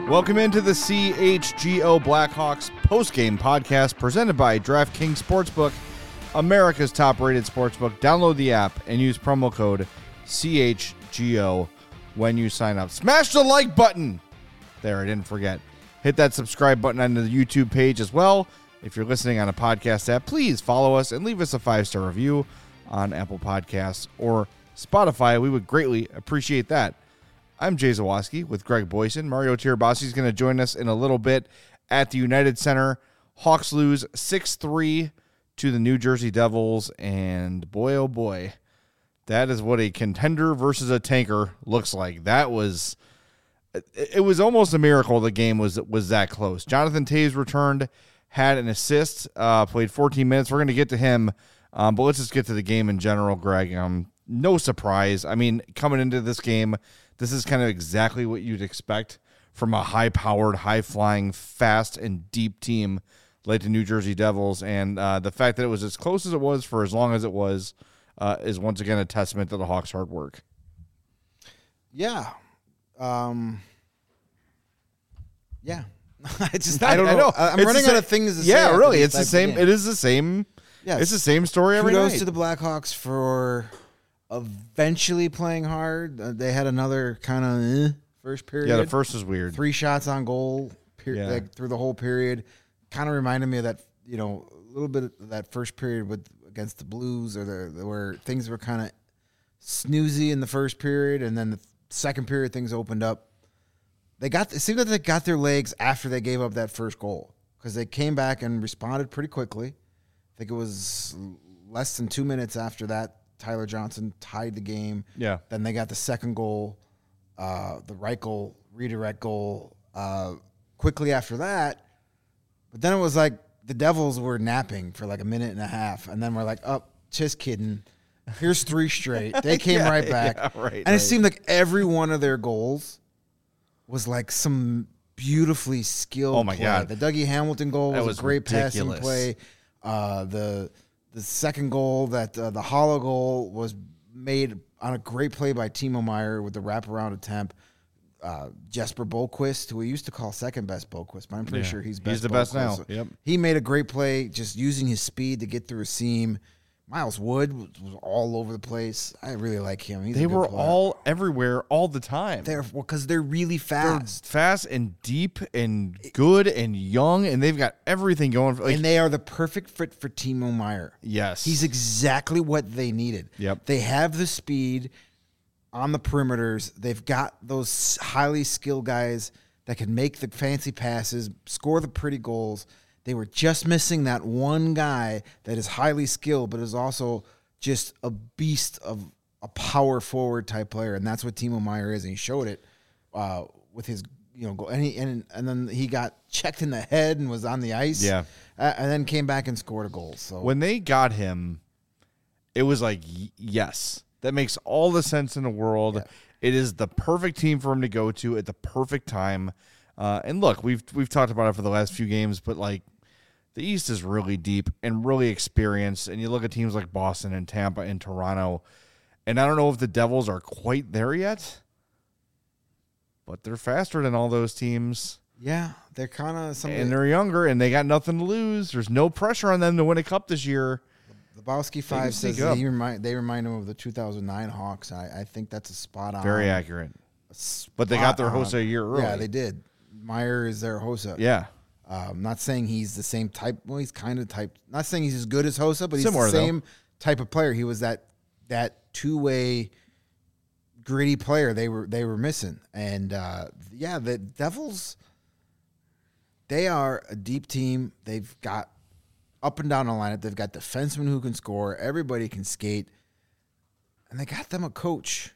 Welcome into the CHGO Blackhawks postgame podcast presented by DraftKings Sportsbook, America's top-rated sportsbook. Download the app and use promo code CHGO when you sign up. Smash the like button. There, I didn't forget. Hit that subscribe button on the YouTube page as well. If you're listening on a podcast app, please follow us and leave us a 5-star review on Apple Podcasts or Spotify. We would greatly appreciate that. I'm Jay Zawoski with Greg Boyson. Mario Tirabassi is going to join us in a little bit at the United Center. Hawks lose 6-3 to the New Jersey Devils, and boy, oh boy, that is what a contender versus a tanker looks like. It was almost a miracle the game was that close. Jonathan Toews returned, had an assist, played 14 minutes. We're going to get to him, but let's just get to the game in general, Greg. No surprise. I mean, coming into this game, this is kind of exactly what you'd expect from a high-powered, high-flying, fast, and deep team like the New Jersey Devils. And the fact that it was as close as it was for as long as it was is once again a testament to the Hawks' hard work. Yeah. Yeah. I don't know. I'm running out of things to say. Yeah, really. It's the same. It is the same. Yeah, it's the same story every night. Kudos to the Blackhawks for eventually playing hard. They had another kind of first period. Yeah, the first was weird. 3 shots on goal like, through the whole period. Kind of reminded me of that, a little bit of that first period against the Blues, or where things were kind of snoozy in the first period, and then the second period things opened up. It seemed like they got their legs after they gave up that first goal, because they came back and responded pretty quickly. I think it was less than 2 minutes after that, Tyler Johnson tied the game. Yeah. Then they got the second goal, the Reichel redirect goal quickly after that. But then it was like the Devils were napping for like a minute and a half, and then we're like, oh, just kidding. Here's 3 straight. They came right back. Yeah, right, and it seemed like every one of their goals was like some beautifully skilled play. God. The Dougie Hamilton goal was a great ridiculous. passing play. The second goal, the hollow goal, was made on a great play by Timo Meier with the wraparound attempt. Jesper Bohlquist, who we used to call second best Bohlquist, but I'm pretty sure he's best. He's the best now. So yep. He made a great play just using his speed to get through a seam. Miles Wood was all over the place. I really like him. They were all everywhere all the time. Because they're really fast. They're fast and deep and good and young, and they've got everything going. And they are the perfect fit for Timo Meier. Yes. He's exactly what they needed. Yep. They have the speed on the perimeters. They've got those highly skilled guys that can make the fancy passes, score the pretty goals. They were just missing that one guy that is highly skilled, but is also just a beast of a power forward type player, and that's what Timo Meier is. And he showed it with his goal. And then he got checked in the head and was on the ice. Yeah, and then came back and scored a goal. So when they got him, it was like, yes, that makes all the sense in the world. Yeah. It is the perfect team for him to go to at the perfect time. And look, we've talked about it for the last few games, but like the East is really deep and really experienced. And you look at teams like Boston and Tampa and Toronto, and I don't know if the Devils are quite there yet, but they're faster than all those teams. Yeah, they're kind of and they're younger, and they got nothing to lose. There's no pressure on them to win a cup this year. The Lebowski 5 says they remind him of the 2009 Hawks. I think that's a spot on. Very accurate. But they got their Hossa a year early. Yeah, they did. Meier is their Hossa. Yeah. I'm not saying he's the same type. Well, he's kind of type. Not saying he's as good as Hossa, but he's similar, the same type of player. He was that two-way gritty player they were missing. And the Devils, they are a deep team. They've got up and down the lineup. They've got defensemen who can score. Everybody can skate, and they got them a coach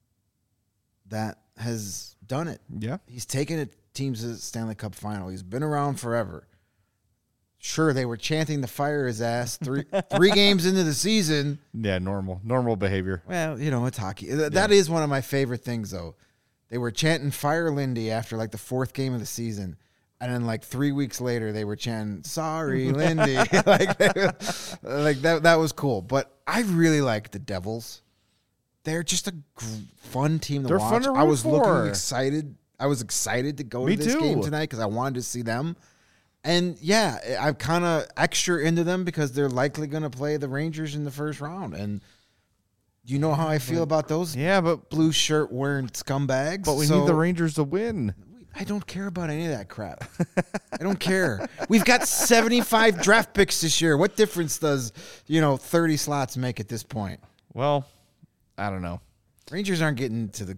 that has done it. Yeah, he's taken it. Teams to the Stanley Cup final. He's been around forever. Sure, they were chanting to fire his ass three games into the season. Yeah, normal behavior. Well, it's hockey. That is one of my favorite things, though. They were chanting fire Lindy after like the 4th game of the season, and then like 3 weeks later they were chanting sorry Lindy. like that was cool. But I really like the Devils. They're just a fun team to watch. Fun to root I was for. looking excited. I was excited to go Me to this too. game tonight because I wanted to see them. And yeah, I'm kind of extra into them because they're likely going to play the Rangers in the first round. And you know how I feel about those blue shirt wearing scumbags. But we need the Rangers to win. I don't care about any of that crap. I don't care. We've got 75 draft picks this year. What difference does 30 slots make at this point? Well, I don't know. Rangers aren't getting to the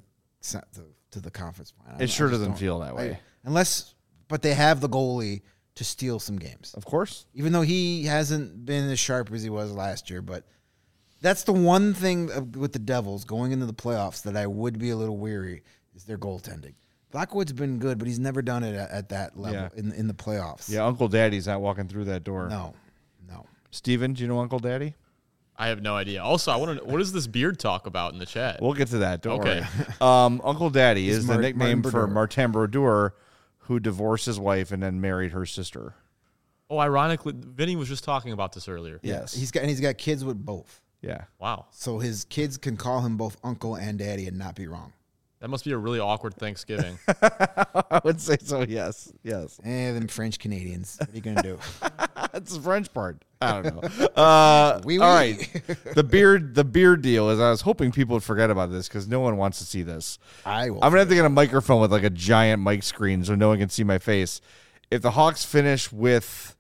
conference final. It sure doesn't feel that way. But they have the goalie to steal some games. Of course. Even though he hasn't been as sharp as he was last year. But that's the one thing with the Devils going into the playoffs that I would be a little weary is their goaltending. Blackwood's been good, but he's never done it at that level in the playoffs. Yeah, Uncle Daddy's not walking through that door. No. Steven, do you know Uncle Daddy? I have no idea. Also, I want to know, what does this beard talk about in the chat? We'll get to that. Don't worry. Uncle Daddy is the nickname for Martin Brodeur, who divorced his wife and then married her sister. Oh, ironically, Vinny was just talking about this earlier. Yes. He's got kids with both. Yeah. Wow. So his kids can call him both uncle and daddy and not be wrong. That must be a really awkward Thanksgiving. I would say so, yes. Them French Canadians. What are you going to do? That's the French part. I don't know. All right. The beard deal is I was hoping people would forget about this because no one wants to see this. I'm going to have to get a microphone with like a giant mic screen so no one can see my face. If the Hawks finish with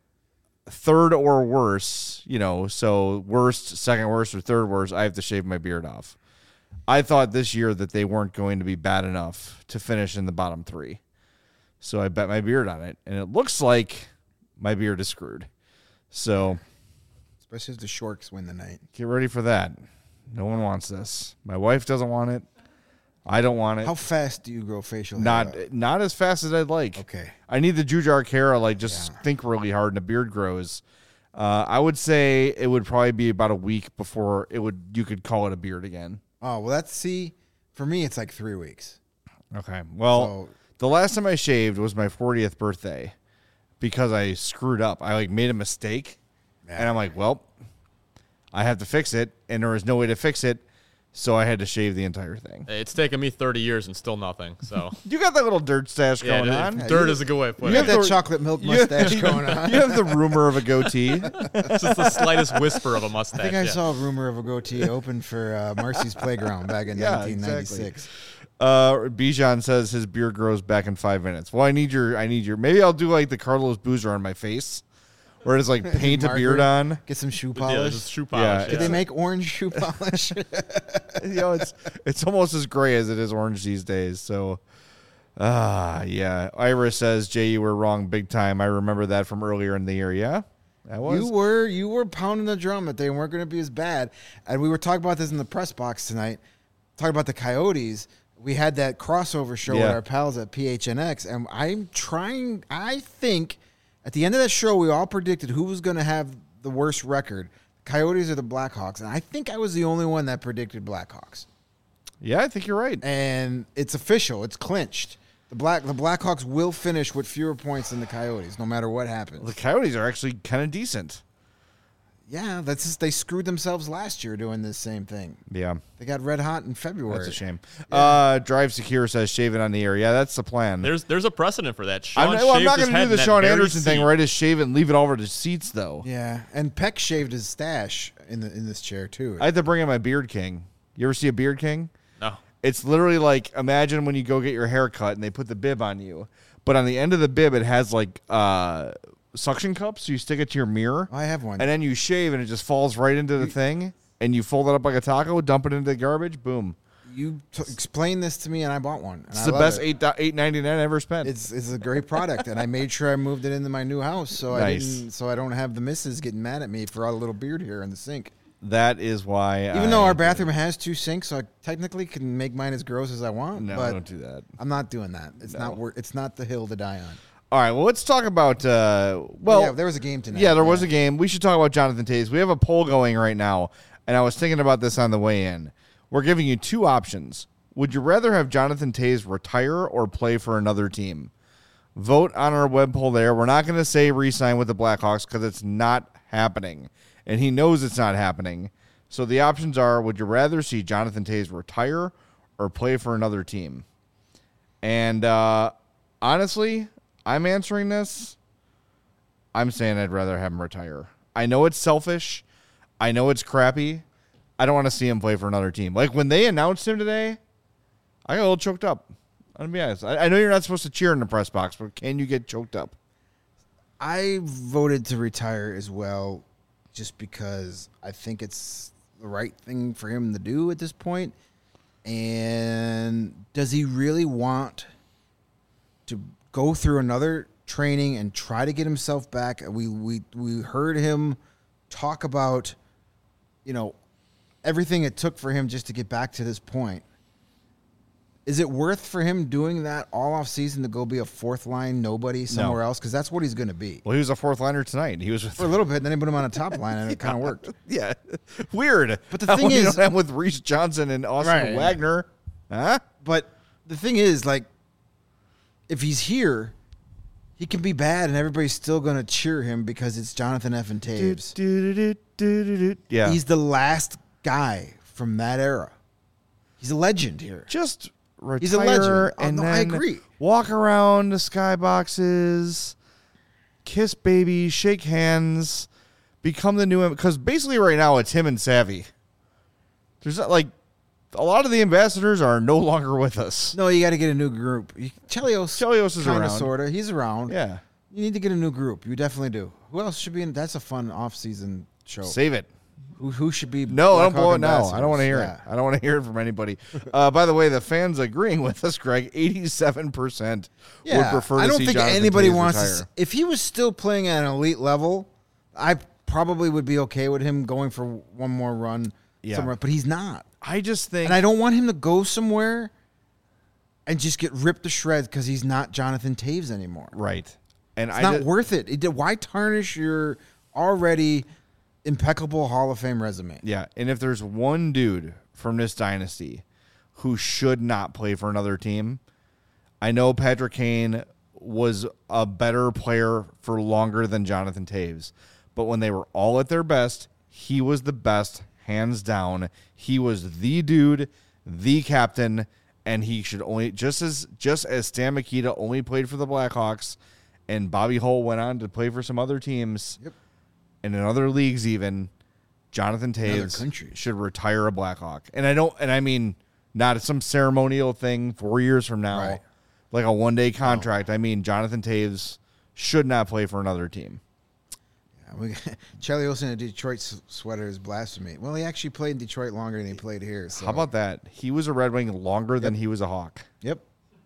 third or worse, so worst, second worst, or third worst, I have to shave my beard off. I thought this year that they weren't going to be bad enough to finish in the bottom three. So I bet my beard on it. And it looks like my beard is screwed. So especially if the Sharks win the night. Get ready for that. No one wants this. My wife doesn't want it. I don't want it. How fast do you grow facial hair? Not as fast as I'd like. Okay. I need the Jujar Kara, think really hard and a beard grows. I would say it would probably be about a week before you could call it a beard again. Oh, well, for me, it's like 3 weeks. Okay. Well, the last time I shaved was my 40th birthday because I screwed up. I made a mistake, and I'm like, well, I have to fix it, and there was no way to fix it, so I had to shave the entire thing. It's taken me 30 years and still nothing. So you got that little dirt stash going on. Dirt is a good way of putting it. You have that chocolate milk mustache going on. You have the rumor of a goatee. Just the slightest whisper of a mustache. I think I saw a rumor of a goatee open for Marcy's Playground back in 1996. Exactly. Bijan says his beard grows back in 5 minutes. Well, I need your. Maybe I'll do like the Carlos Boozer on my face. Or it's like paint a beard on. Get some shoe polish. Just shoe polish. Did they make orange shoe polish? It's almost as gray as it is orange these days. So, yeah. Iris says, Jay, you were wrong big time. I remember that from earlier in the year. Yeah, that was. You were pounding the drum that they weren't going to be as bad. And we were talking about this in the press box tonight. Talking about the Coyotes. We had that crossover show with our pals at PHNX. And I think at the end of that show, we all predicted who was going to have the worst record, Coyotes or the Blackhawks. And I think I was the only one that predicted Blackhawks. Yeah, I think you're right. And it's official. It's clinched. The Blackhawks will finish with fewer points than the Coyotes, no matter what happens. Well, the Coyotes are actually kind of decent. Yeah, that's just, they screwed themselves last year doing this same thing. Yeah. They got red hot in February. That's a shame. Yeah. Drive Secure says shave it on the air. Yeah, that's the plan. There's a precedent for that. I'm not going to do the Sean Anderson thing where I just shave it and leave it all over the seats, though. Yeah, and Peck shaved his stash in this chair, too. I had to bring in my Beard King. You ever see a Beard King? No. It's literally like, imagine when you go get your hair cut and they put the bib on you. But on the end of the bib, it has like suction cups, so you stick it to your mirror. I have one. And then you shave, and it just falls right into the thing, and you fold it up like a taco, dump it into the garbage, boom. You explained this to me, and I bought one. It's the best $8.99 I ever spent. It's a great product, and I made sure I moved it into my new house, so I don't have the missus getting mad at me for all the little beard hair in the sink. That is why. Even though our bathroom has 2 sinks, so I technically can make mine as gross as I want. No, but don't do that. I'm not doing that. It's not the hill to die on. All right, well, let's talk about, there was a game tonight. Yeah, there was a game. We should talk about Jonathan Toews. We have a poll going right now, and I was thinking about this on the way in. We're giving you 2 options. Would you rather have Jonathan Toews retire or play for another team? Vote on our web poll there. We're not going to say re-sign with the Blackhawks because it's not happening, and he knows it's not happening. So the options are, would you rather see Jonathan Toews retire or play for another team? And honestly, I'm answering this. I'm saying I'd rather have him retire. I know it's selfish. I know it's crappy. I don't want to see him play for another team. Like when they announced him today, I got a little choked up. I'm going to be honest. I know you're not supposed to cheer in the press box, but can you get choked up? I voted to retire as well just because I think it's the right thing for him to do at this point. And does he really want to go through another training and try to get himself back? We heard him talk about, everything it took for him just to get back to this point. Is it worth for him doing that all off season to go be a fourth line nobody somewhere else? Because that's what he's going to be. Well, he was a fourth liner tonight. He was for a little bit, then they put him on a top line, and it kind of worked. Yeah, weird. But the thing is, with Reese Johnson and Austin Wagner, huh? But the thing is, like, if he's here, he can be bad, and everybody's still going to cheer him because it's Jonathan Effin Toews. Yeah, he's the last guy from that era. He's a legend here. Just retire. He's a legend. And then I agree. Walk around the skyboxes, kiss babies, shake hands, become the new. Because basically, right now it's him and Savvy. There's not like a lot of the ambassadors are no longer with us. No, you got to get a new group. Chelios is around. Kind of, sort of. He's around. Yeah. You need to get a new group. You definitely do. Who else should be in? That's a fun off-season show. Save it. Who should be? No, don't blow it now. I don't want to hear it. I don't want to hear it from anybody. By the way, the fans agreeing with us, Greg. 87% would prefer to see Jonathan Toews retire. I don't think anybody wants to. If he was still playing at an elite level, I probably would be okay with him going for one more run somewhere. But he's not. I just think, and I don't want him to go somewhere and just get ripped to shreds because he's not Jonathan Toews anymore. Right, and it's not worth it. Why tarnish your already impeccable Hall of Fame resume? Yeah, and if there's one dude from this dynasty who should not play for another team, I know Patrick Kane was a better player for longer than Jonathan Toews, but when they were all at their best, he was the best, hands down. He was the dude, the captain, and he should only just as Stan Mikita only played for the Blackhawks, and Bobby Hull went on to play for some other teams. Yep. And in other leagues, even Jonathan Toews should retire a Blackhawk. And I mean not some ceremonial thing 4 years from now, like a one-day contract. No. I mean, Jonathan Toews should not play for another team. Yeah, Chelios in a Detroit sweater is blasphemy. Well, he actually played in Detroit longer than he played here. So. How about that? He was a Red Wing longer than he was a Hawk. Yep.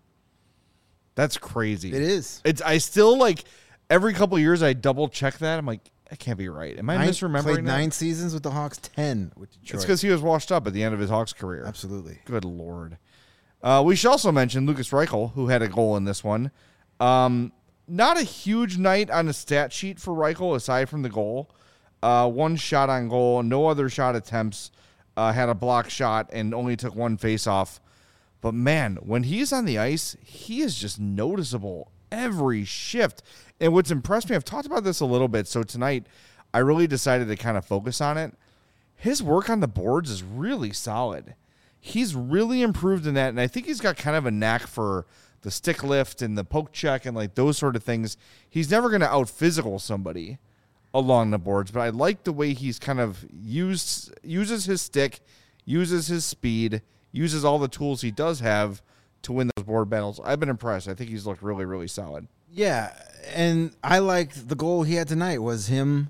That's crazy. It is. I still, like, every couple of years I double-check that. I'm like, that can't be right. Am I misremembering played that? 9 seasons with the Hawks, 10 with Detroit. It's because he was washed up at the end of his Hawks career. Absolutely. Good Lord. We should also mention Lucas Reichel, who had a goal in this one. Not a huge night on the stat sheet for Reichel, aside from the goal. One shot on goal, no other shot attempts. Had a block shot and only took one face-off. But, man, when he's on the ice, he is just noticeable every shift. And what's impressed me, I've talked about this a little bit, so tonight I really decided to kind of focus on it. His work on the boards is really solid. He's really improved in that, and I think he's got kind of a knack for the stick lift and the poke check and like those sort of things. He's never going to out-physical somebody along the boards, but I like the way he's kind of uses his stick, uses his speed, uses all the tools he does have to win those board battles. I've been impressed. I think he's looked really, really solid. Yeah, and I liked the goal he had tonight was him.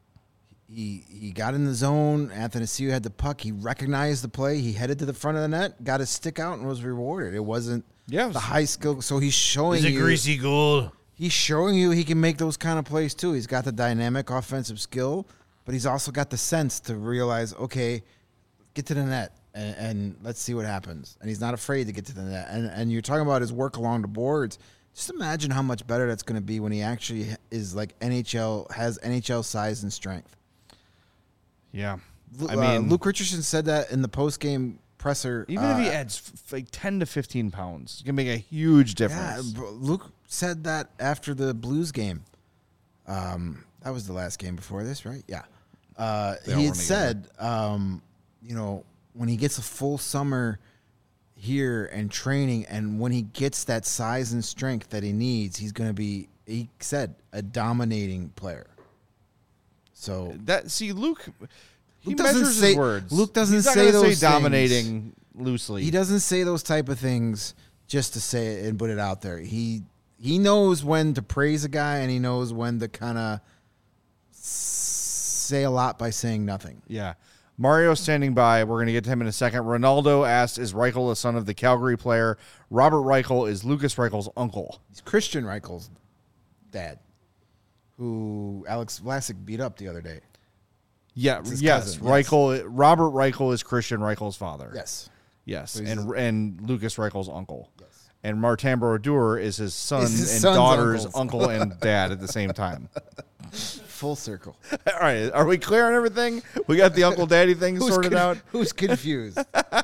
He got in the zone. Anthony Ciu had the puck. He recognized the play. He headed to the front of the net, got his stick out, and was rewarded. It wasn't the high skill. So he's showing you. It's a greasy goal. He's showing you he can make those kind of plays too. He's got the dynamic offensive skill, but he's also got the sense to realize, okay, get to the net and let's see what happens. And he's not afraid to get to the net. And you're talking about his work along the boards. Just imagine how much better that's going to be when he actually is like has NHL size and strength. Yeah. I mean, Luke Richardson said that in the post-game presser. Even if he adds like 10 to 15 pounds, it can make a huge difference. Yeah, Luke said that after the Blues game. That was the last game before this, right? Yeah. He had said, when he gets a full summer, here and training, and when he gets that size and strength that he needs, he's going to be, he said, a dominating player. So Luke he doesn't measures say his words. Luke doesn't He's not say gonna those say dominating things. loosely. He doesn't say those type of things just to say it and put it out there. He knows when to praise a guy, and he knows when to kind of say a lot by saying nothing. Yeah. Mario standing by. We're going to get to him in a second. Ronaldo asked, is Reichel the son of the Calgary player? Robert Reichel is Lucas Reichel's uncle. He's Christian Reichel's dad, who Alex Vlasic beat up the other day. Yeah, It's his yes. cousin, Reichel, Robert Reichel is Christian Reichel's father. Yes. Yes, So and Lucas Reichel's uncle. Yes. And Martin Brodeur is his son Is his and son's daughter's uncles. uncle and dad at the same time. Full circle. All right, are we clear on everything? We got the uncle daddy thing sorted out. Who's confused?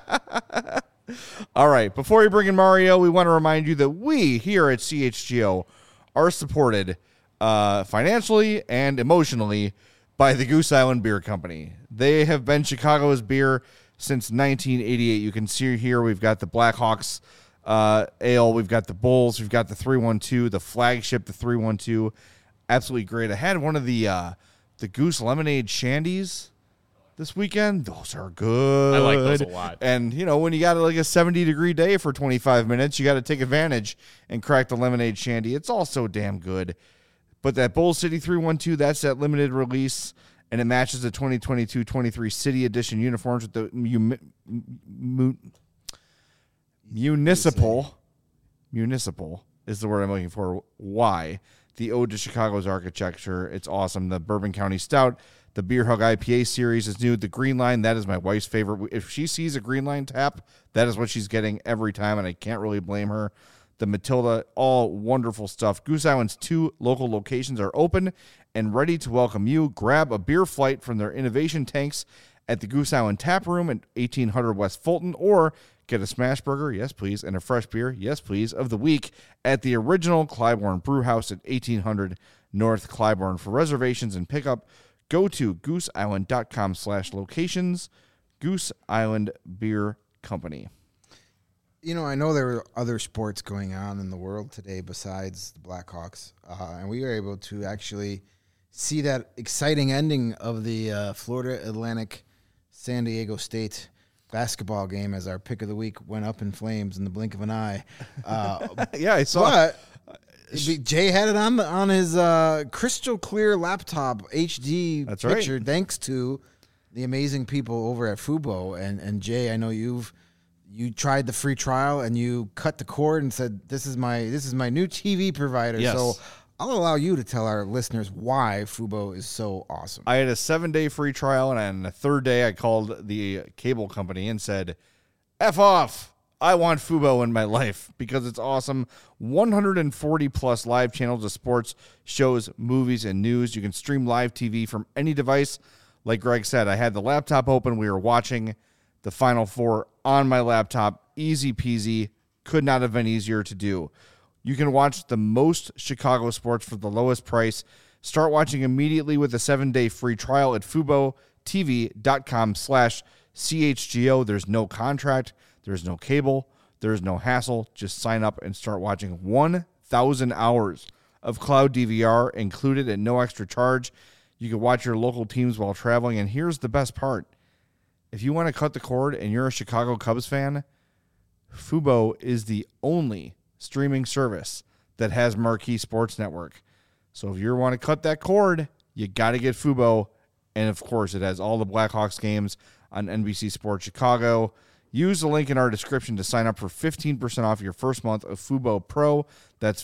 All right, before we bring in Mario, we want to remind you that we here at CHGO are supported financially and emotionally by the Goose Island Beer Company. They have been Chicago's beer since 1988. You can see here we've got the Blackhawks ale, we've got the Bulls, we've got the 312, the flagship, the 312. Absolutely great. I had one of the Goose Lemonade Shandies this weekend. Those are good. I like those a lot. And, you know, when you got like a 70-degree day for 25 minutes, you got to take advantage and crack the lemonade shandy. It's all so damn good. But that Bull City 312, that's that limited release, and it matches the 2022-23 City Edition uniforms with the municipal is the word I'm looking for. Why? The ode to Chicago's architecture. It's awesome. The Bourbon County Stout, the Beer Hug IPA series is new. The Green Line, that is my wife's favorite. If she sees a Green Line tap, that is what she's getting every time, and I can't really blame her. The Matilda, all wonderful stuff. Goose Island's 2 local locations are open and ready to welcome you. Grab a beer flight from their innovation tanks at the Goose Island Tap Room at 1800 West Fulton, or get a smash burger, yes please, and a fresh beer, yes please, of the week at the original Clybourne Brew House at 1800 North Clybourne. For reservations and pickup, go to gooseisland.com/locations. Goose Island Beer Company. You know, I know there were other sports going on in the world today besides the Blackhawks, and we were able to actually see that exciting ending of the Florida Atlantic San Diego State basketball game as our pick of the week went up in flames in the blink of an eye. Yeah, I saw. But Jay had it on his crystal clear laptop HD That's picture, right. thanks to the amazing people over at Fubo. And Jay, I know you tried the free trial and you cut the cord and said, this is my new TV provider. Yes. So I'll allow you to tell our listeners why Fubo is so awesome. I had a 7-day free trial, and on the 3rd day, I called the cable company and said, F off. I want Fubo in my life because it's awesome. 140 plus live channels of sports, shows, movies, and news. You can stream live TV from any device. Like Greg said, I had the laptop open. We were watching the Final Four on my laptop. Easy peasy. Could not have been easier to do. You can watch the most Chicago sports for the lowest price. Start watching immediately with a 7-day free trial at FuboTV.com/CHGO. There's no contract. There's no cable. There's no hassle. Just sign up and start watching 1,000 hours of cloud DVR included at no extra charge. You can watch your local teams while traveling. And here's the best part. If you want to cut the cord and you're a Chicago Cubs fan, Fubo is the only streaming service that has Marquee Sports Network. So if you want to cut that cord, you got to get Fubo. And of course, it has all the Blackhawks games on NBC Sports Chicago. Use the link in our description to sign up for 15% off your first month of Fubo Pro. That's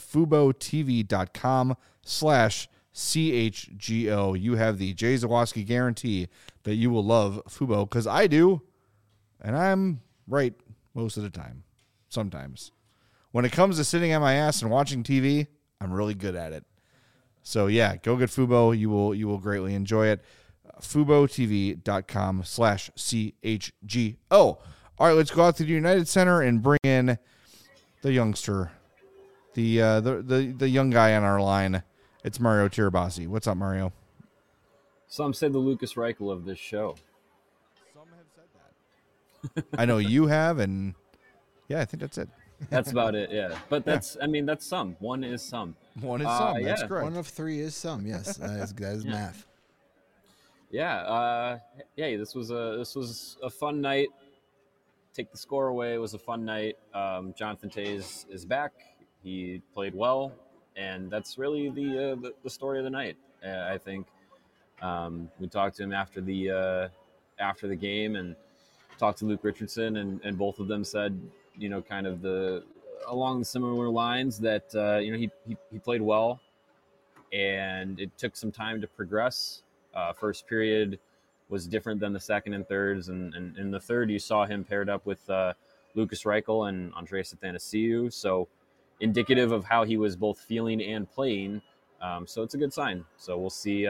FuboTV.com/CHGO. You have the Jay Zawoski guarantee that you will love Fubo, because I do. And I'm right most of the time. Sometimes. When it comes to sitting on my ass and watching TV, I'm really good at it. So yeah, go get Fubo. You will greatly enjoy it. FuboTV.com/CHGO. All right, let's go out to the United Center and bring in the youngster, the young guy on our line. It's Mario Tirabassi. What's up, Mario? Some said the Lucas Reichel of this show. Some have said that. I know you have, and Yeah, I think that's it. That's about it. Yeah, but that's that's some. One is some. One is some. That's yeah. correct. 1 of 3 is some. Yes, that is math. Yeah. This was a fun night. Take the score away. It was a fun night. Jonathan Toews is back. He played well, and that's really the story of the night. I think we talked to him after the game and talked to Luke Richardson, and both of them said, kind of along the similar lines that he played well, and it took some time to progress. First period was different than the second and thirds, and in the third you saw him paired up with Lukas Reichel and Andreas Athanasiou, so indicative of how he was both feeling and playing. So it's a good sign. So we'll see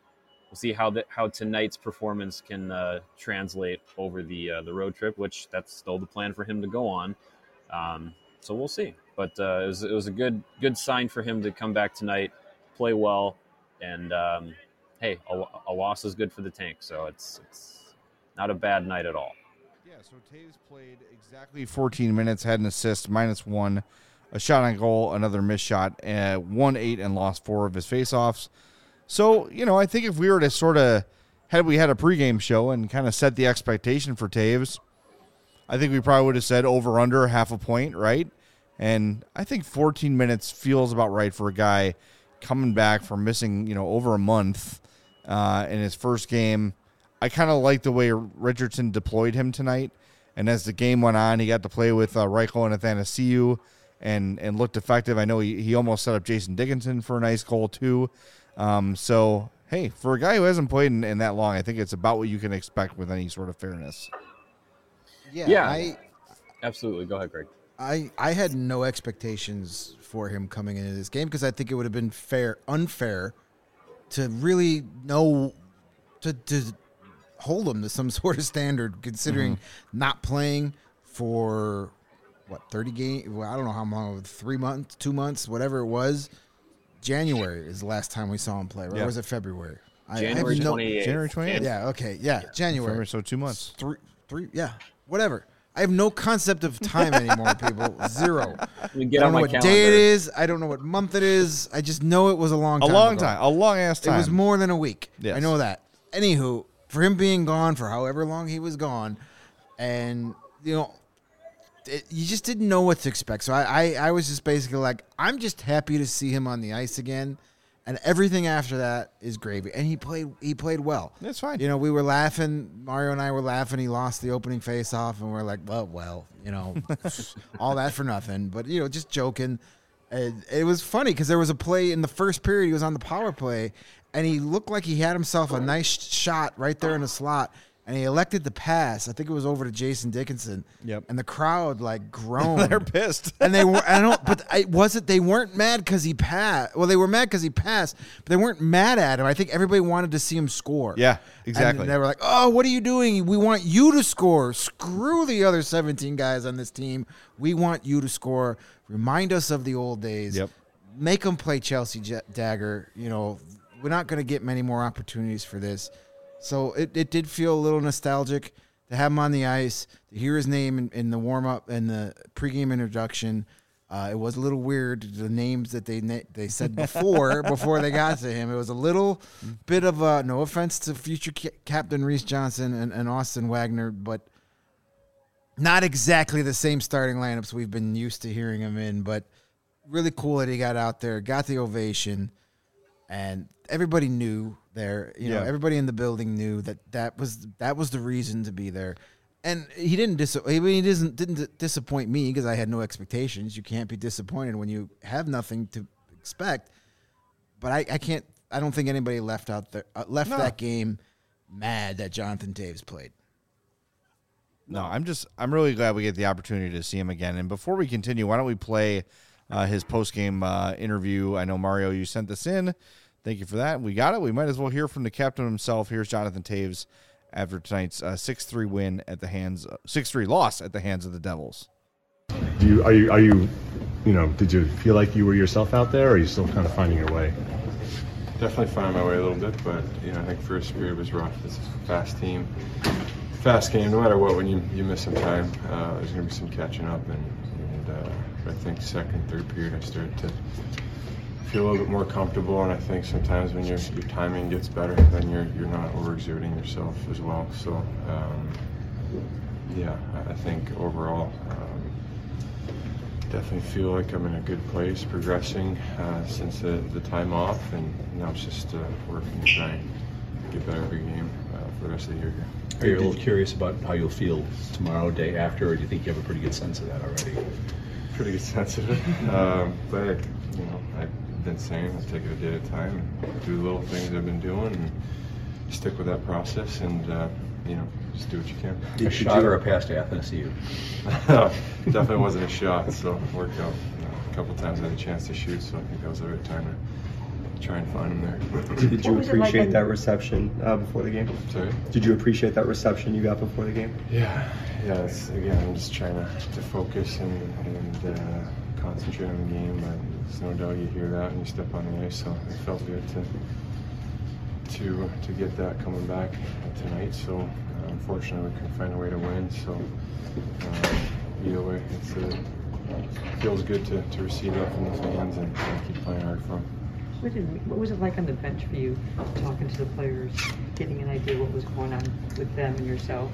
how tonight's performance can translate over the road trip, which that's still the plan for him to go on. So we'll see. But it was a good sign for him to come back tonight, play well, and hey, a loss is good for the tank. So it's not a bad night at all. Yeah, so Toews played exactly 14 minutes, had an assist, -1, a shot on goal, another missed shot, won 8 and lost 4 of his faceoffs. So, I think if we were to sort of had a pregame show and kind of set the expectation for Toews, I think we probably would have said over under half a point, right? And I think 14 minutes feels about right for a guy coming back from missing, over a month in his first game. I kind of like the way Richardson deployed him tonight. And as the game went on, he got to play with Reichel and Athanasiou and looked effective. I know he almost set up Jason Dickinson for a nice goal too. So, hey, for a guy who hasn't played in that long, I think it's about what you can expect with any sort of fairness. Yeah, absolutely. Go ahead, Greg. I had no expectations for him coming into this game because I think it would have been unfair to really know to hold him to some sort of standard, considering not playing for 30 games. Well, I don't know how long, 3 months, 2 months, whatever it was. January is the last time we saw him play, right? Or was it February? January 28th. January 28th. Yeah. Okay. Yeah. January. So 2 months. Three. Yeah. Whatever. I have no concept of time anymore, people. Zero. I don't know what day it is. I don't know what month it is. I just know it was a long time. A long ass time. It was more than a week. Yes. I know that. Anywho, for him being gone for however long he was gone, and you just didn't know what to expect. So I was just basically like, I'm just happy to see him on the ice again. And everything after that is gravy. And he played well. That's fine. We were laughing. Mario and I were laughing. He lost the opening faceoff, and we're like, well, all that for nothing. But, just joking. It was funny because there was a play in the first period. He was on the power play, and he looked like he had himself a nice shot right there in the slot. And he elected to pass. I think it was over to Jason Dickinson. Yep. And the crowd groaned. They're pissed. And they were. They weren't mad because he passed. Well, they were mad because he passed, but they weren't mad at him. I think everybody wanted to see him score. Yeah, exactly. And they were like, "Oh, what are you doing? We want you to score. Screw the other 17 guys on this team. We want you to score. Remind us of the old days. Yep. Make them play Chelsea Dagger. We're not going to get many more opportunities for this." So it did feel a little nostalgic to have him on the ice, to hear his name in the warm-up and the pregame introduction. It was a little weird, the names that they said before they got to him. It was a little bit of no offense to future Captain Reese Johnson and Austin Wagner, but not exactly the same starting lineups we've been used to hearing him in. But really cool that he got out there, got the ovation, and everybody knew there. Everybody in the building knew that was the reason to be there. And he didn't disappoint me because I had no expectations. You can't be disappointed when you have nothing to expect. But I don't think anybody left that game mad that Jonathan Toews played. No, I'm really glad we get the opportunity to see him again. And before we continue, why don't we play his post-game interview? I know, Mario, you sent this in. Thank you for that. We got it. We might as well hear from the captain himself. Here's Jonathan Toews after tonight's 6-3 loss at the hands of the Devils. Did you feel like you were yourself out there, or are you still kind of finding your way? Definitely finding my way a little bit, but I think first period was rough. It's a fast team. fast game. No matter what, when you miss some time, there's going to be some catching up. And I think second, third period, I started to feel a little bit more comfortable. And I think sometimes when your timing gets better, then you're not overexerting yourself as well. So, yeah, I think overall, definitely feel like I'm in a good place, progressing since the time off, and now it's just working to try and get better every game for the rest of the year here. Are you a little curious about how you'll feel tomorrow, day after, or do you think you have a pretty good sense of that already? Pretty good sense of it, but I've been saying I'll take it a day at a time and do the little things I've been doing and stick with that process and just do what you can. A shot or a pass to Athanasiou? Definitely wasn't a shot, so it worked out. A couple times I had a chance to shoot, so I think that was the right time to try and find him there. Did you appreciate that reception before the game? Sorry? Did you appreciate that reception you got before the game? Yeah. Again, I'm just trying to focus and concentrate on the game. There's no doubt you hear that when you step on the ice, so it felt good to get that coming back tonight. So unfortunately, we couldn't find a way to win. So either way, it feels good to receive that from the fans and keep playing hard for them. What was it like on the bench for you, talking to the players, getting an idea what was going on with them and yourself?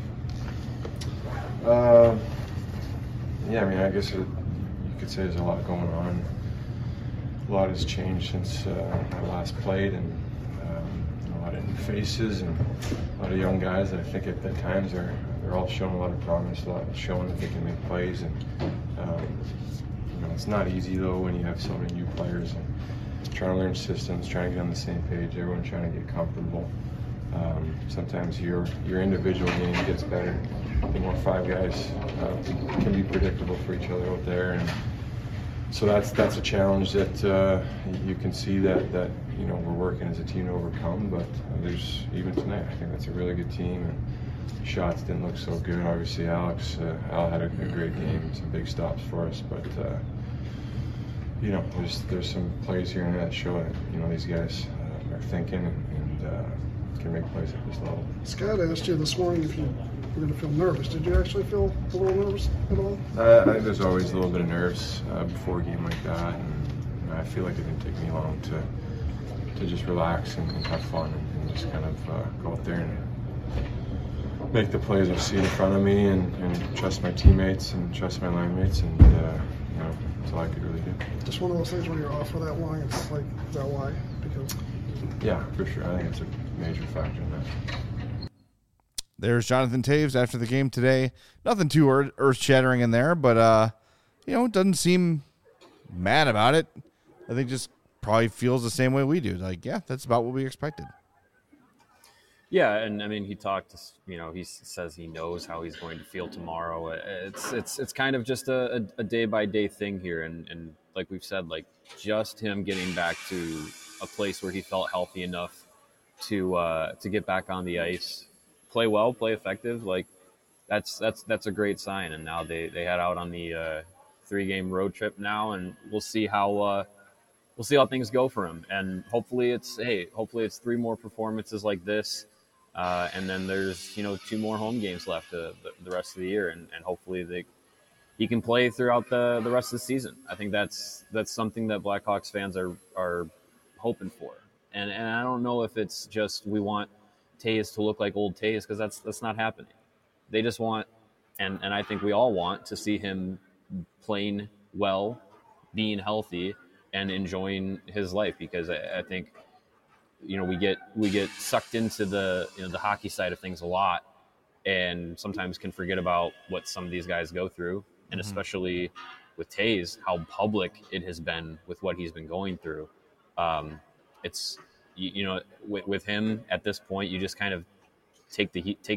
I guess you could say there's a lot going on. A lot has changed since I last played, and a lot of new faces and a lot of young guys that I think at times they're all showing a lot of promise, showing that they can make plays. And it's not easy though when you have so many new players and trying to learn systems, trying to get on the same page, everyone trying to get comfortable. Sometimes your individual game gets better. The more five guys can be predictable for each other out there, and so that's a challenge that you can see that we're working as a team to overcome. But there's even tonight, I think that's a really good team. And shots didn't look so good. Obviously, Al had a great game, some big stops for us, but. There's some plays here and there that show that these guys are thinking and can make plays at this level. Scott asked you this morning if you were going to feel nervous. Did you actually feel a little nervous at all? I think there's always a little bit of nerves before a game like that, and I feel like it didn't take me long to just relax and have fun and just kind of go out there and make the plays I see in front of me and trust my teammates and trust my line mates, and that's all I could really do. Just one of those things where you're off for that long, it's like, is that why? Because yeah, for sure. I think it's a major factor in that. There's Jonathan Toews after the game today. Nothing too earth-shattering in there, but, doesn't seem mad about it. I think just probably feels the same way we do. Like, yeah, that's about what we expected. Yeah, and I mean, he talked. He says he knows how he's going to feel tomorrow. It's kind of just a day by day thing here, and like we've said, like just him getting back to a place where he felt healthy enough to get back on the ice, play well, play effective. Like that's a great sign. And now they head out on the 3-game road trip now, and we'll see how things go for him. And hopefully it's 3 more performances like this. And then there's 2 more home games left the rest of the year, and hopefully he can play throughout the rest of the season. I think that's something that Blackhawks fans are hoping for, and I don't know if it's just we want Toews to look like old Toews, because that's not happening. They just want, and I think we all want to see him playing well, being healthy, and enjoying his life, because I think. We get sucked into the the hockey side of things a lot, and sometimes can forget about what some of these guys go through, and especially with Toews, how public it has been with what he's been going through. It's with him at this point, you just kind of take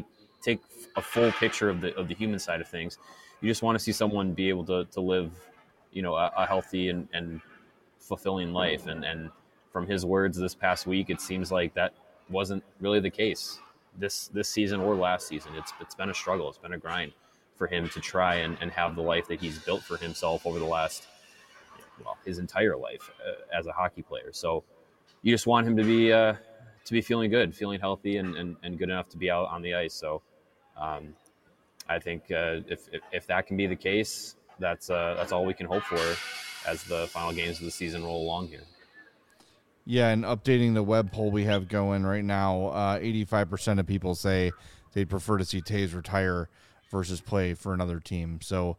a full picture of the human side of things. You just want to see someone be able to live a healthy and fulfilling life, and from his words this past week, it seems like that wasn't really the case this season or last season. It's been a struggle. It's been a grind for him to try and have the life that he's built for himself over the last, his entire life as a hockey player. So you just want him to be feeling good, feeling healthy, and good enough to be out on the ice. So I think if that can be the case, that's all we can hope for as the final games of the season roll along here. Yeah, and updating the web poll we have going right now, 85% of people say they'd prefer to see Toews retire versus play for another team. So,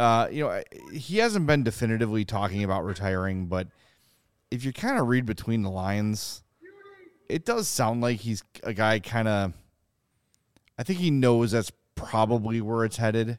he hasn't been definitively talking about retiring, but if you kind of read between the lines, it does sound like he's a guy I think he knows that's probably where it's headed.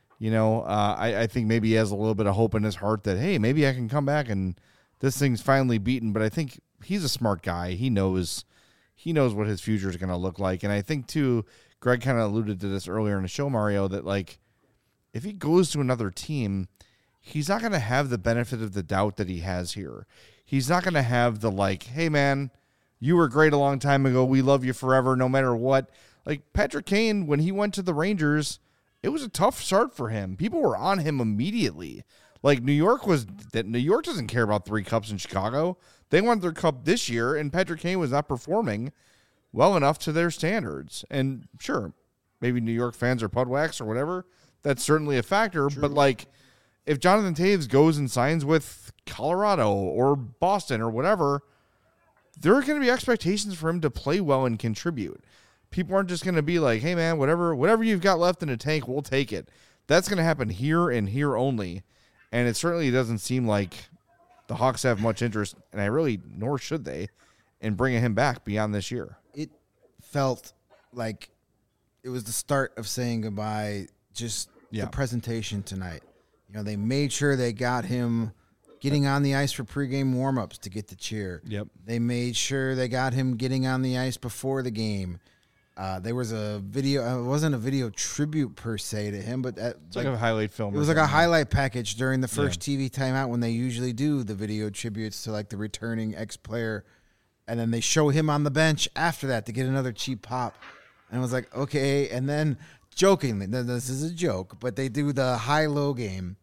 I think maybe he has a little bit of hope in his heart that, hey, maybe I can come back and this thing's finally beaten. But I think he's a smart guy. He knows what his future is going to look like. And I think, too, Greg kind of alluded to this earlier in the show, Mario, that, like, if he goes to another team, he's not going to have the benefit of the doubt that he has here. He's not going to have the, like, hey, man, you were great a long time ago. We love you forever, no matter what. Like, Patrick Kane, when he went to the Rangers, it was a tough start for him. People were on him immediately. Like, New York doesn't care about 3 cups in Chicago. They won their cup this year, and Patrick Kane was not performing well enough to their standards. And sure, maybe New York fans are Pudwax or whatever. That's certainly a factor. True. But, like, if Jonathan Toews goes and signs with Colorado or Boston or whatever, there are going to be expectations for him to play well and contribute. People aren't just going to be like, hey, man, whatever you've got left in the tank, we'll take it. That's going to happen here and here only. And it certainly doesn't seem like the Hawks have much interest, and nor should they, in bringing him back beyond this year. It felt like it was the start of saying goodbye, just the presentation tonight. They made sure they got him getting on the ice for pregame warmups to get the cheer. Yep. They made sure they got him getting on the ice before the game. There was a video. It wasn't a video tribute per se to him, but it's like a highlight film. It was like a highlight package during the first TV timeout when they usually do the video tributes to like the returning ex-player, and then they show him on the bench after that to get another cheap pop. And I was like, okay. And then jokingly, this is a joke, but they do the high-low game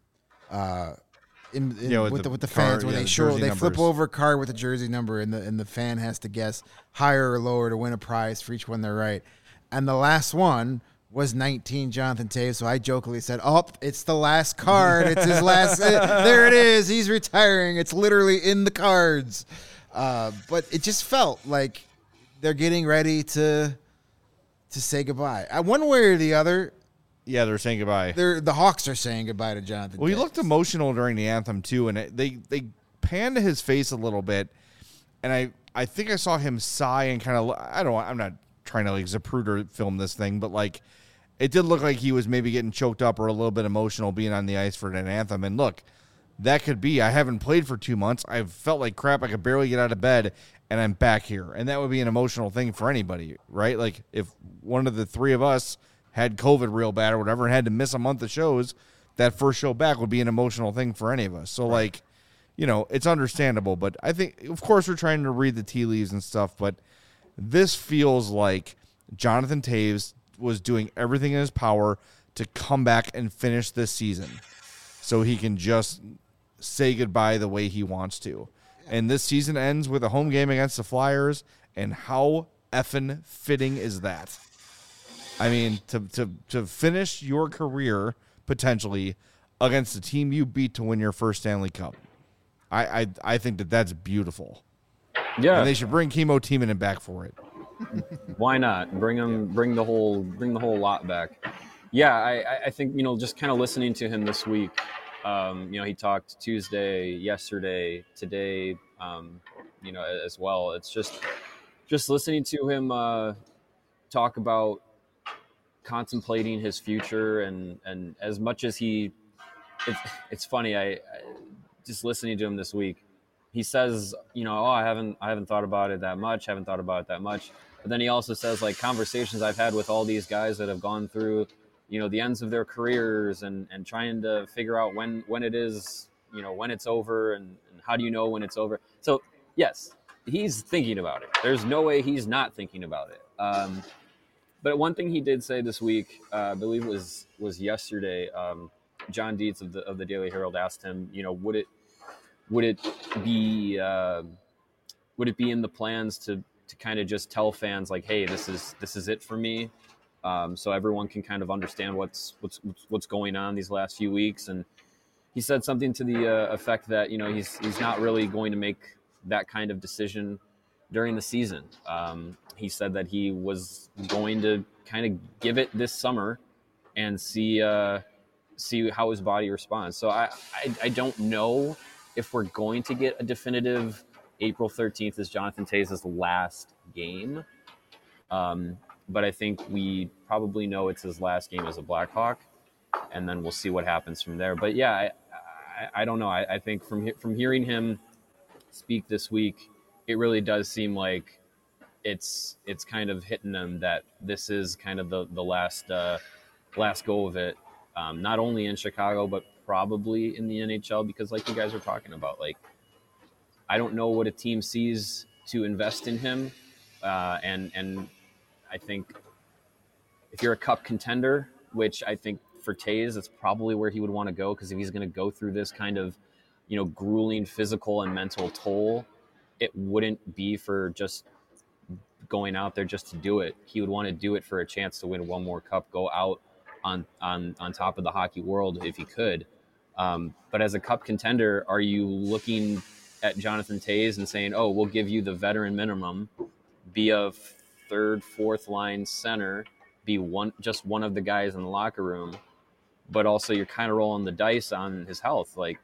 with the fans where they flip over a card with a jersey number and the fan has to guess higher or lower to win a prize for each one they're right. And the last one was 19 Jonathan Toews. So I jokingly said, it's the last card. It's his last. There it is. He's retiring. It's literally in the cards. But it just felt like they're getting ready to say goodbye. One way or the other. Yeah, they're saying goodbye. The Hawks are saying goodbye to Jonathan Toews. He looked emotional during the anthem, too, and they panned his face a little bit, and I think I saw him sigh and kind of, I'm not trying to, like, Zapruder film this thing, but, like, it did look like he was maybe getting choked up or a little bit emotional being on the ice for an anthem, and look, that could be, I haven't played for 2 months, I've felt like crap, I could barely get out of bed, and I'm back here, and that would be an emotional thing for anybody, right? Like, if one of the 3 of us had COVID real bad or whatever and had to miss a month of shows, that first show back would be an emotional thing for any of us. So, like, it's understandable. But I think, of course, we're trying to read the tea leaves and stuff, but this feels like Jonathan Toews was doing everything in his power to come back and finish this season so he can just say goodbye the way he wants to. And this season ends with a home game against the Flyers, and how effing fitting is that? I mean, to finish your career potentially against the team you beat to win your first Stanley Cup, I think that's beautiful. Yeah, and they should bring Chemo Timonen back for it. Why not bring the whole lot back? Yeah, I think just kind of listening to him this week. He talked Tuesday, yesterday, today, as well. It's just listening to him talk about contemplating his future and as much as it's funny, I just listening to him this week, he says, I haven't thought about it that much, but then he also says, like, conversations I've had with all these guys that have gone through the ends of their careers and trying to figure out when it is, when it's over and how do you know when it's over. So yes, he's thinking about it. There's no way he's not thinking about it. But one thing he did say this week, I believe it was yesterday, John Dietz of the Daily Herald asked him, would it be in the plans to kind of just tell fans like, hey, this is it for me, so everyone can kind of understand what's going on these last few weeks. And he said something to the effect that he's not really going to make that kind of decision during the season. He said that he was going to kind of give it this summer and see how his body responds. So I don't know if we're going to get a definitive April 13th is Jonathan Toews' last game. But I think we probably know it's his last game as a Blackhawk, and then we'll see what happens from there. But yeah, I don't know. I think from hearing him speak this week, it really does seem like it's kind of hitting them that this is kind of the last go of it, not only in Chicago but probably in the NHL, because like you guys were talking about, like, I don't know what a team sees to invest in him, and I think if you're a cup contender, which I think for Toews, it's probably where he would want to go, because if he's going to go through this kind of, grueling physical and mental toll, it wouldn't be for just going out there just to do it. He would want to do it for a chance to win one more cup, go out on top of the hockey world if he could. But as a cup contender, are you looking at Jonathan Toews and saying, oh, we'll give you the veteran minimum, be a third, fourth line center, be just one of the guys in the locker room, but also you're kind of rolling the dice on his health? Like,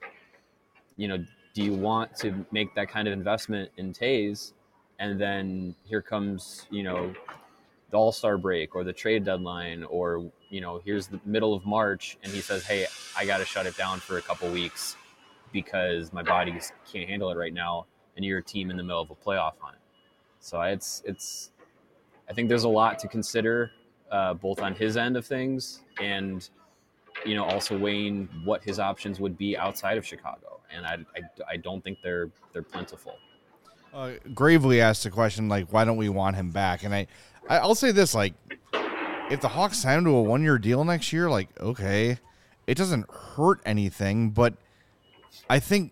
do you want to make that kind of investment in Toews, and then here comes, the All-Star break or the trade deadline, or, here's the middle of March and he says, hey, I got to shut it down for a couple weeks because my body can't handle it right now, and you're a team in the middle of a playoff hunt. So I think there's a lot to consider, both on his end of things and, also weighing what his options would be outside of Chicago. And I don't think they're plentiful. Gravely asked the question, like, why don't we want him back? And I'll say this, like, if the Hawks sign him to a 1-year deal next year, like, okay, it doesn't hurt anything. But I think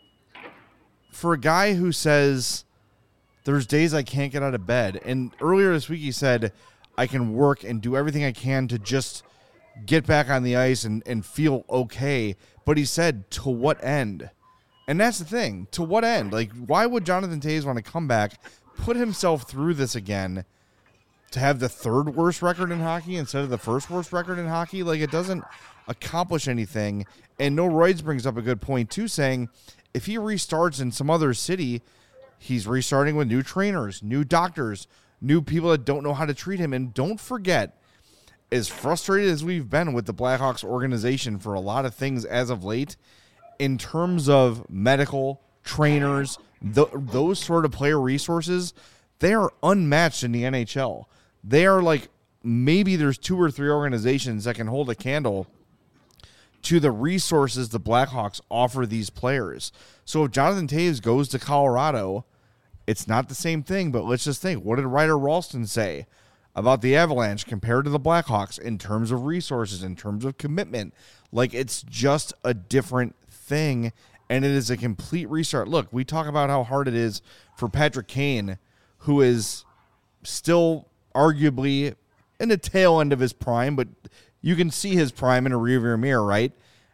for a guy who says there's days I can't get out of bed, and earlier this week he said I can work and do everything I can to just get back on the ice and feel okay, but he said, to what end? And that's the thing. To what end? Like, why would Jonathan Toews want to come back, put himself through this again, to have the third worst record in hockey instead of the first worst record in hockey? Like, it doesn't accomplish anything. And Noah Royds brings up a good point, too, saying if he restarts in some other city, he's restarting with new trainers, new doctors, new people that don't know how to treat him. And don't forget, as frustrated as we've been with the Blackhawks organization for a lot of things as of late, in terms of medical, trainers, those sort of player resources, they are unmatched in the NHL. They are like, maybe there's 2 or 3 organizations that can hold a candle to the resources the Blackhawks offer these players. So if Jonathan Toews goes to Colorado, it's not the same thing, but let's just think, what did Ryder Ralston say about the Avalanche compared to the Blackhawks in terms of resources, in terms of commitment? Like, it's just a different thing, and it is a complete restart. Look, we talk about how hard it is for Patrick Kane, who is still arguably in the tail end of his prime, but you can see his prime in a rearview mirror, right?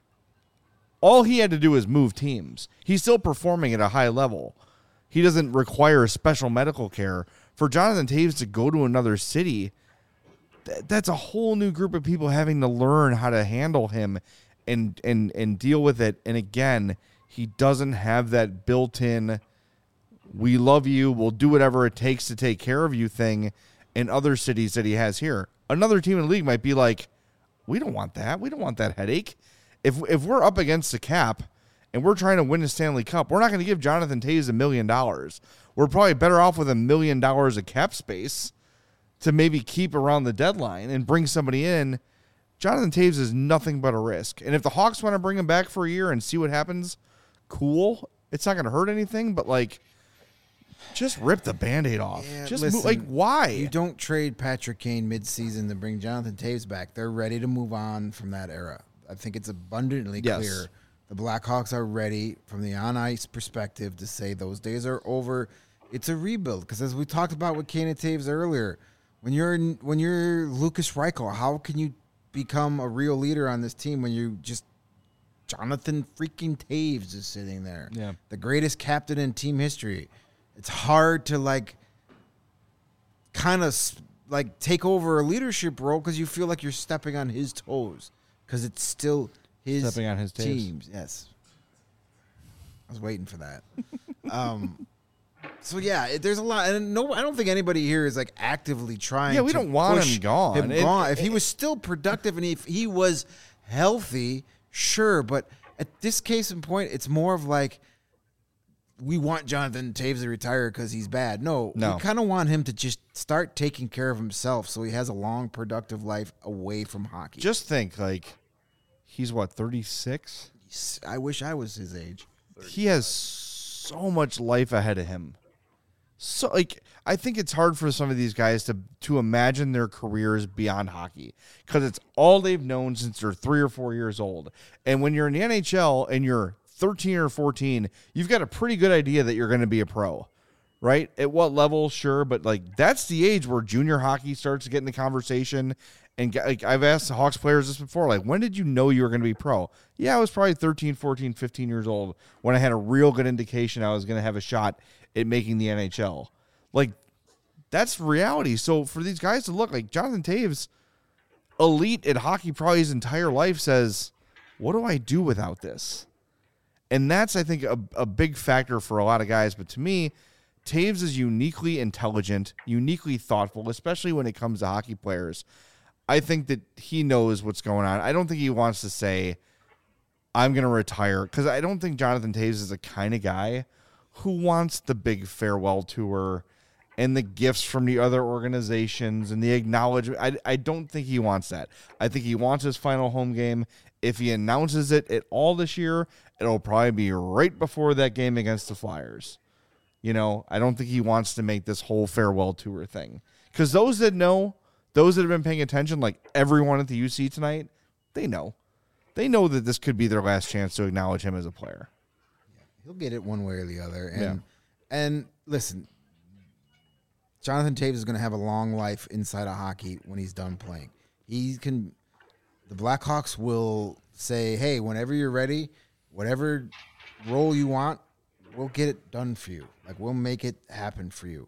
All he had to do is move teams. He's still performing at a high level. He doesn't require special medical care. For Jonathan Toews to go to another city, that's a whole new group of people having to learn how to handle him and deal with it. And again, he doesn't have that built-in, we love you, we'll do whatever it takes to take care of you thing in other cities that he has here. Another team in the league might be like, we don't want that. We don't want that headache. If we're up against the cap and we're trying to win the Stanley Cup, we're not going to give Jonathan Toews $1 million. We're probably better off with $1 million of cap space to maybe keep around the deadline and bring somebody in. Jonathan Toews is nothing but a risk. And if the Hawks want to bring him back for a year and see what happens, cool. It's not going to hurt anything, but like, just rip the Band-Aid off. Yeah, just listen, like, why? You don't trade Patrick Kane mid-season to bring Jonathan Toews back. They're ready to move on from that era. I think it's abundantly clear. The Blackhawks are ready from the on-ice perspective to say those days are over. It's a rebuild, because as we talked about with Kane and Toews earlier, When you're Lucas Reichel, how can you become a real leader on this team when you just Jonathan freaking Toews is sitting there? Yeah. The greatest captain in team history. It's hard to kind of take over a leadership role because you feel like you're stepping on his toes because it's still his Stepping on his teams. Yes. I was waiting for that. So yeah, there's a lot, and I don't think anybody here is actively trying. Yeah, we to don't want push him gone. If he was still productive and if he was healthy, sure. But at this case in point, it's more of we want Jonathan Toews to retire because he's bad. No, we kind of want him to just start taking care of himself so he has a long, productive life away from hockey. Just think, he's what, 36? I wish I was his age. He has so much life ahead of him. So, I think it's hard for some of these guys to imagine their careers beyond hockey because it's all they've known since they're 3 or 4 years old. And when you're in the NHL and you're 13 or 14, you've got a pretty good idea that you're going to be a pro, right? At what level, sure, but that's the age where junior hockey starts to get in the conversation. And I've asked the Hawks players this before, when did you know you were going to be pro? Yeah, I was probably 13, 14, 15 years old when I had a real good indication I was going to have a shot at making the NHL. That's reality. So for these guys to look Jonathan Toews, elite at hockey probably his entire life, says, what do I do without this? And that's, I think, a big factor for a lot of guys. But to me, Toews is uniquely intelligent, uniquely thoughtful, especially when it comes to hockey players. I think that he knows what's going on. I don't think he wants to say, I'm going to retire, because I don't think Jonathan Toews is the kind of guy who wants the big farewell tour and the gifts from the other organizations and the acknowledgement. I don't think he wants that. I think he wants his final home game. If he announces it at all this year, it'll probably be right before that game against the Flyers. I don't think he wants to make this whole farewell tour thing. Because those that know, those that have been paying attention, everyone at the UC tonight, they know. They know that this could be their last chance to acknowledge him as a player. Yeah, he'll get it one way or the other. And listen, Jonathan Toews is going to have a long life inside of hockey when he's done playing. The Blackhawks will say, hey, whenever you're ready, whatever role you want, we'll get it done for you. We'll make it happen for you.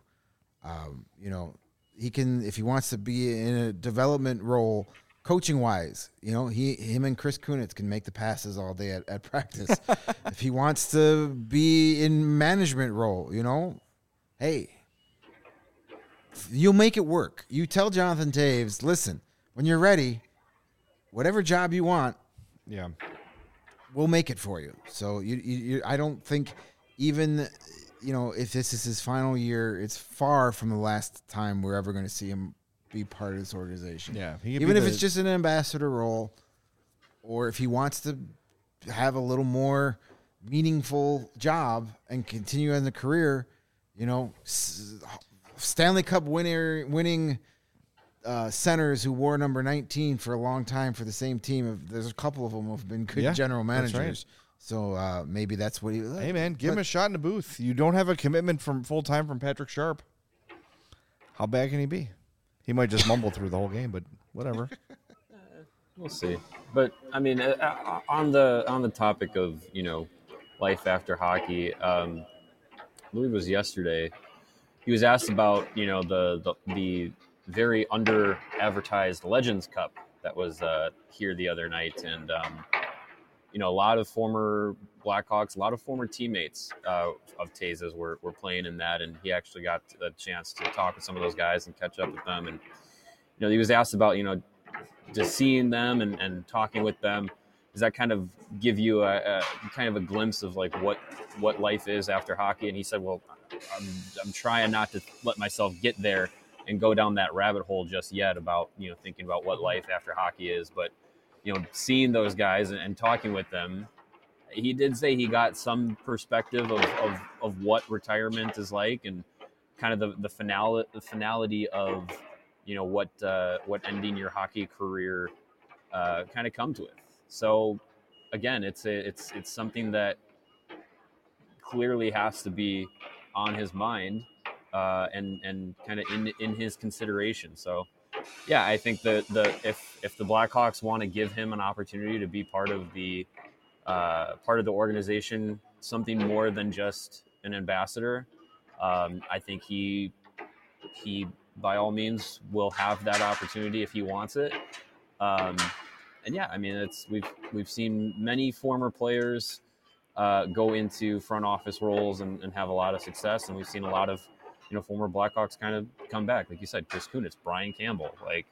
He can, if he wants to be in a development role, coaching wise, him and Chris Kunitz can make the passes all day at practice. If he wants to be in management role, hey, you'll make it work. You tell Jonathan Toews, listen, when you're ready, whatever job you want, we'll make it for you. So I don't think even, if this is his final year, it's far from the last time we're ever going to see him be part of this organization. Yeah. Even if it's just an ambassador role, or if he wants to have a little more meaningful job and continue in the career, Stanley Cup winning centers who wore number 19 for a long time for the same team. There's a couple of them who have been good general managers. Right. So maybe that's what he. Hey man, give him a shot in the booth. You don't have a commitment from full time from Patrick Sharp. How bad can he be? He might just mumble through the whole game, but whatever. We'll see. But I mean, on the topic of life after hockey, I believe it was yesterday. He was asked about the very under advertised Legends Cup that was here the other night, and a lot of former Blackhawks, a lot of former teammates of Toews's were playing in that, and he actually got a chance to talk with some of those guys and catch up with them. And he was asked about just seeing them and talking with them. Does that kind of give you a kind of a glimpse of what life is after hockey? And he said, well, I'm trying not to let myself get there and go down that rabbit hole just yet about thinking about what life after hockey is, but seeing those guys and talking with them, he did say he got some perspective of what retirement is like, and kind of the finality of what ending your hockey career kind of comes with. So again, it's something that clearly has to be on his mind and kind of in his consideration. So, yeah, I think that if the Blackhawks want to give him an opportunity to be part of the organization, something more than just an ambassador, I think he by all means will have that opportunity if he wants it. And yeah, I mean, we've seen many former players go into front office roles and have a lot of success, and we've seen a lot of former Blackhawks kind of come back, like you said, Chris Kunitz, Brian Campbell. Like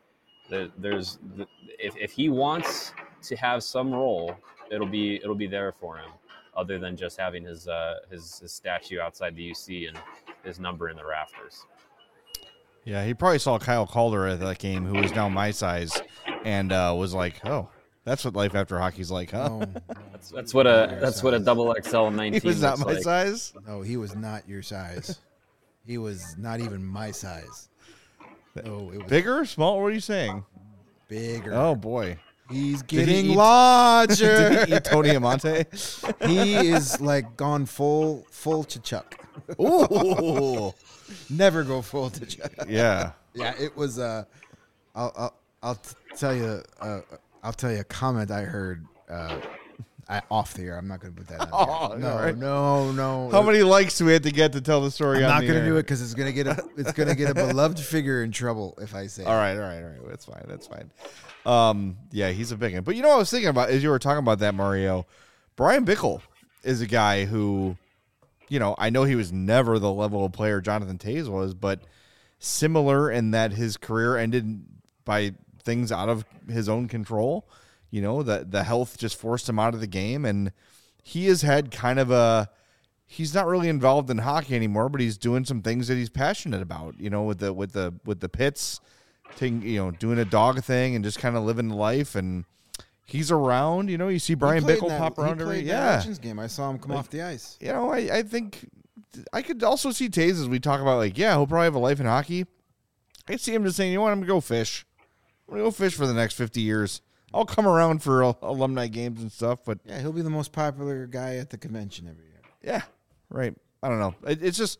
if he wants to have some role, it'll be there for him, other than just having his statue outside the UC and his number in the rafters. Yeah, he probably saw Kyle Calder at that game, who was now my size, and was like, "Oh, that's what life after hockey's like, huh?" Oh, that's what a double XL 19. He was not my like. size. No, he was not your size. He was not even my size. Oh, it was bigger, small. What are you saying? Bigger. Oh boy, he's getting larger. Did he eat Tony Amonte? He is like gone full Chuck. Ooh. Never go full to Chuck. Yeah. Yeah, it was I'll tell you a comment I heard off the air. I'm not going to put that on here. No. How many likes do we have to get to tell the story? I'm not going to do it because it's going to get a beloved figure in trouble if I say. All right. That's fine. Yeah, he's a big one. But you know what I was thinking about as you were talking about that, Mario? Brian Bickle is a guy who, I know he was never the level of player Jonathan Toews was, but similar in that his career ended by things out of his own control. The health just forced him out of the game, and he has had kind of he's not really involved in hockey anymore, but he's doing some things that he's passionate about, with the pits, doing a dog thing and just kind of living life. And he's around, you see Brian Bickle pop around every Legends game. I saw him come off the ice. I think I could also see Toews as we talk about, he'll probably have a life in hockey. I see him just saying, I'm going to go fish. I'm going to go fish for the next 50 years. I'll come around for alumni games and stuff, but yeah, he'll be the most popular guy at the convention every year. Yeah, right. I don't know. It's just,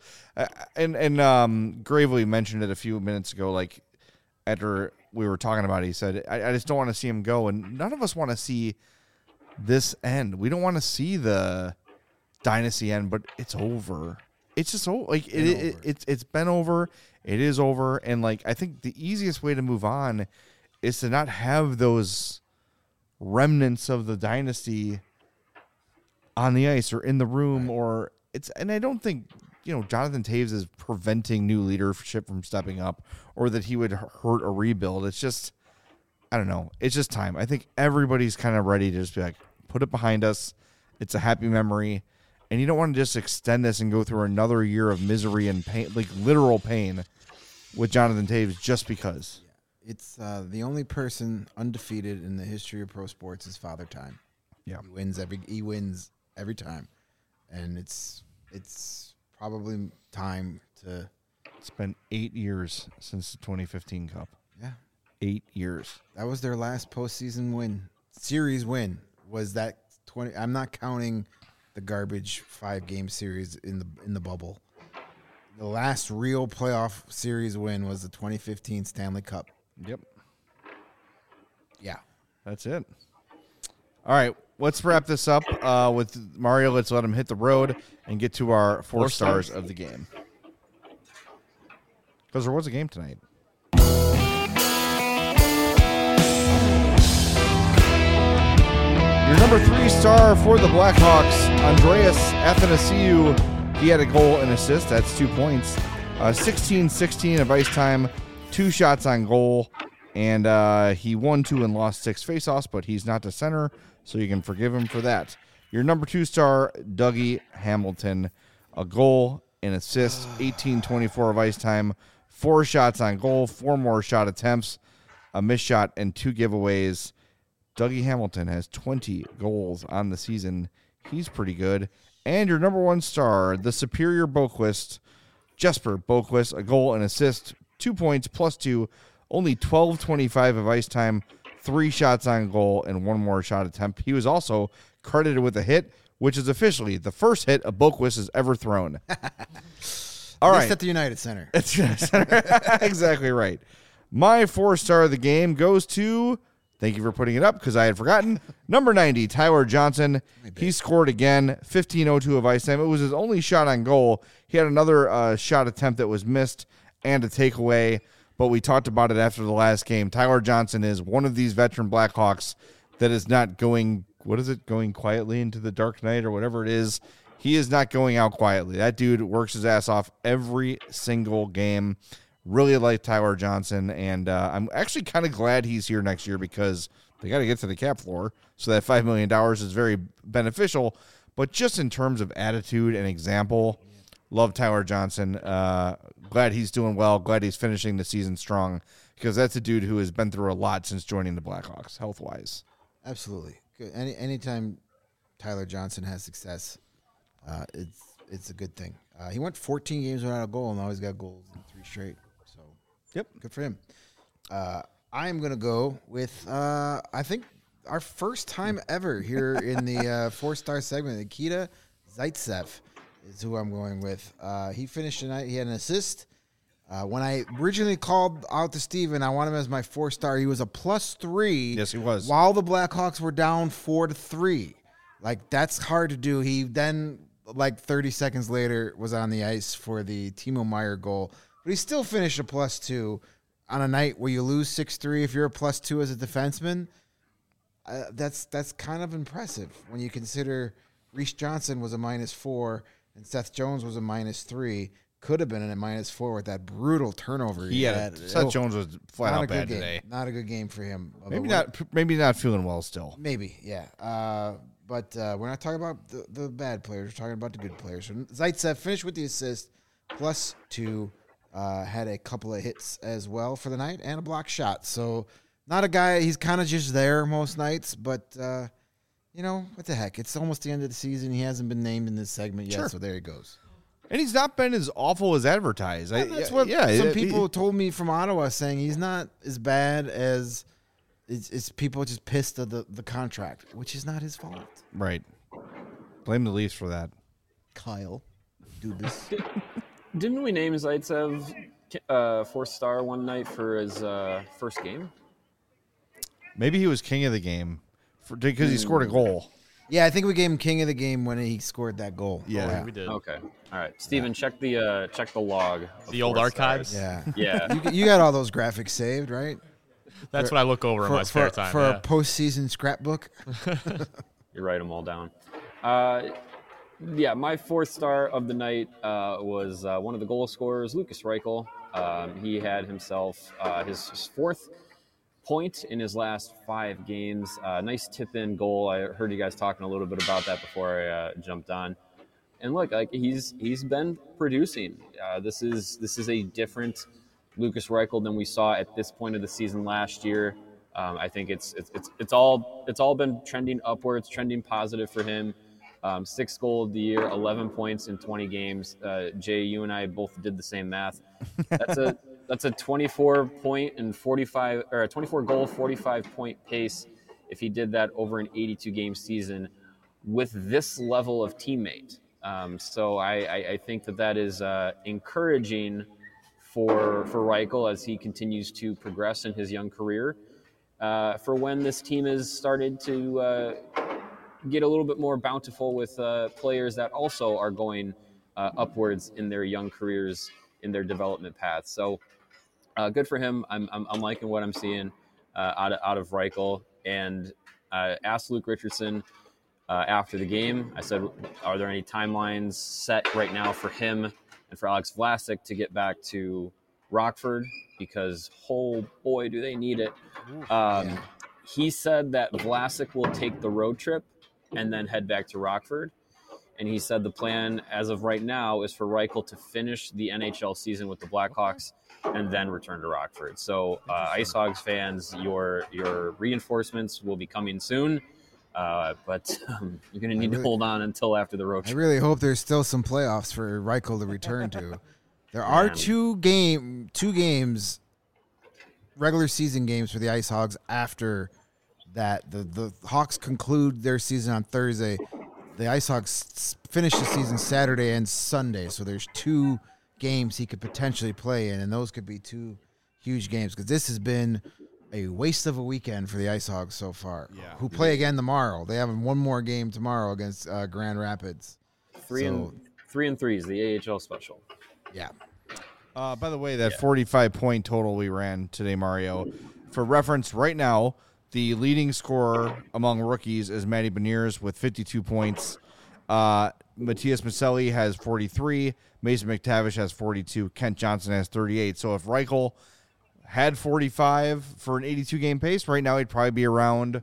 and Gravely mentioned it a few minutes ago. Like after we were talking about it, he said, "I just don't want to see him go," and none of us want to see this end. We don't want to see the dynasty end, but it's over. It's just it's been over. It is over, and I think the easiest way to move on is to not have those remnants of the dynasty on the ice or in the room, right. And I don't think, Jonathan Toews is preventing new leadership from stepping up or that he would hurt a rebuild. It's just, I don't know. It's just time. I think everybody's kind of ready to just be like, put it behind us. It's a happy memory. And you don't want to just extend this and go through another year of misery and pain, literal pain with Jonathan Toews just because. It's the only person undefeated in the history of pro sports is Father Time. Yeah, he wins every time, and it's probably time to. It's been 8 years since the 2015 Cup. Yeah, 8 years. That was their last postseason series win. Was that 20? I'm not counting the garbage 5-game series in the bubble. The last real playoff series win was the 2015 Stanley Cup. Yep. Yeah. That's it. All right. Let's wrap this up with Mario. Let's let him hit the road and get to our 4 stars of the game. Because there was a game tonight. Your number 3 star for the Blackhawks, Andreas Athanasiou. He had a goal and assist. That's 2 points. 16-16 of ice time. 2 shots on goal, and he won 2 and lost 6 faceoffs, but he's not the center, so you can forgive him for that. Your number 2 star, Dougie Hamilton, a goal, an assist, 18-24 of ice time, 4 shots on goal, 4 more shot attempts, a missed shot, and 2 giveaways. Dougie Hamilton has 20 goals on the season. He's pretty good. And your number 1 star, the Superior Boqvist, Jesper Boqvist, a goal and assist, 2 points plus 2, only 12-25 of ice time, 3 shots on goal, and 1 more shot attempt. He was also credited with a hit, which is officially the first hit a Boqvist has ever thrown. All At right. least at the United Center. Exactly right. My 4-star of the game goes to, thank you for putting it up because I had forgotten, number 90, Tyler Johnson. He scored again, 15:02 of ice time. It was his only shot on goal. He had another shot attempt that was missed and a takeaway, but we talked about it after the last game. Tyler Johnson is one of these veteran Blackhawks that is not going, going quietly into the dark night or whatever it is. He is not going out quietly. That dude works his ass off every single game. Really like Tyler Johnson, and I'm actually kind of glad he's here next year because they got to get to the cap floor, so that $5 million is very beneficial. But just in terms of attitude and example, love Tyler Johnson. Glad he's doing well. Glad he's finishing the season strong because that's a dude who has been through a lot since joining the Blackhawks, health-wise. Absolutely. Good. Anytime Tyler Johnson has success, it's a good thing. He went 14 games without a goal, and now he's got goals in 3 straight. So, yep, good for him. I am going to go with, I think, our first time ever here in the 4-star segment. Nikita Zaitsev is who I'm going with. He finished tonight. He had an assist. When I originally called out to Steven, I wanted him as my 4-star. He was a +3. Yes, he was. While the Blackhawks were down 4-3. Like, that's hard to do. He then, 30 seconds later, was on the ice for the Timo Meier goal. But he still finished a +2 on a night where you lose 6-3. If you're a +2 as a defenseman, that's kind of impressive when you consider Reese Johnson was a -4 and Seth Jones was a -3. Could have been a -4 with that brutal turnover. Seth Jones was flat out bad game. today. Not a good game for him. Maybe not feeling well still. Maybe, yeah. But we're not talking about the bad players. We're talking about the good players. So Zaitsev finished with the assist, +2. Had a couple of hits as well for the night and a block shot. So not a guy, he's kind of just there most nights, but, what the heck? It's almost the end of the season. He hasn't been named in this segment yet, so there he goes. And he's not been as awful as advertised. That's what some people told me from Ottawa, saying he's not as bad as it's people just pissed at the contract, which is not his fault. Right. Blame the Leafs for that. Kyle Dubas. Didn't we name Zaitsev 4-star one night for his first game? Maybe he was king of the game because he scored a goal. Yeah, I think we gave him king of the game when he scored that goal. Yeah, we did. Okay, all right, Steven, check the log. The old archives. Yeah. You got all those graphics saved, right? That's what I look over in my spare time. For a postseason scrapbook. You write them all down. My 4th star of the night was one of the goal scorers, Lukas Reichel. He had himself his 4th point in his last 5 games. Nice tip-in goal. I heard you guys talking a little bit about that before I jumped on. And look, he's been producing. This is a different Lukas Reichel than we saw at this point of the season last year. I think it's all been trending upwards, trending positive for him. 6th goal of the year, 11 points in 20 games. Jay, you and I both did the same math. That's a 24 point and 45 or a 24 goal, 45 point pace if he did that over an 82 game season with this level of teammate. So I think that is encouraging for Reichel as he continues to progress in his young career. For when this team has started to get a little bit more bountiful with players that also are going upwards in their young careers, in their development paths. So good for him. I'm liking what I'm seeing out of Reichel. And asked Luke Richardson after the game. I said, are there any timelines set right now for him and for Alex Vlasic to get back to Rockford? Because, oh boy, do they need it. He said that Vlasic will take the road trip and then head back to Rockford. And he said the plan as of right now is for Reichel to finish the NHL season with the Blackhawks and then return to Rockford. So Ice Hogs fans, your reinforcements will be coming soon. But you're going to need to hold on until after the road trip. I really hope there's still some playoffs for Reichel to return to. There are two games, regular season games for the Ice Hogs after that. The Hawks conclude their season on Thursday. The Ice Hogs finish the season Saturday and Sunday, so there's 2 games he could potentially play in, and those could be 2 huge games because this has been a waste of a weekend for the Ice Hogs so far. Yeah. Who play again tomorrow? They have one more game tomorrow against Grand Rapids. 3 and 3 is the AHL special. Yeah. By the way, that 45-point total we ran today, Mario, for reference, right now, the leading scorer among rookies is Matty Beniers with 52 points. Matthias Maselli has 43. Mason McTavish has 42. Kent Johnson has 38. So if Reichel had 45 for an 82-game pace, right now he'd probably be around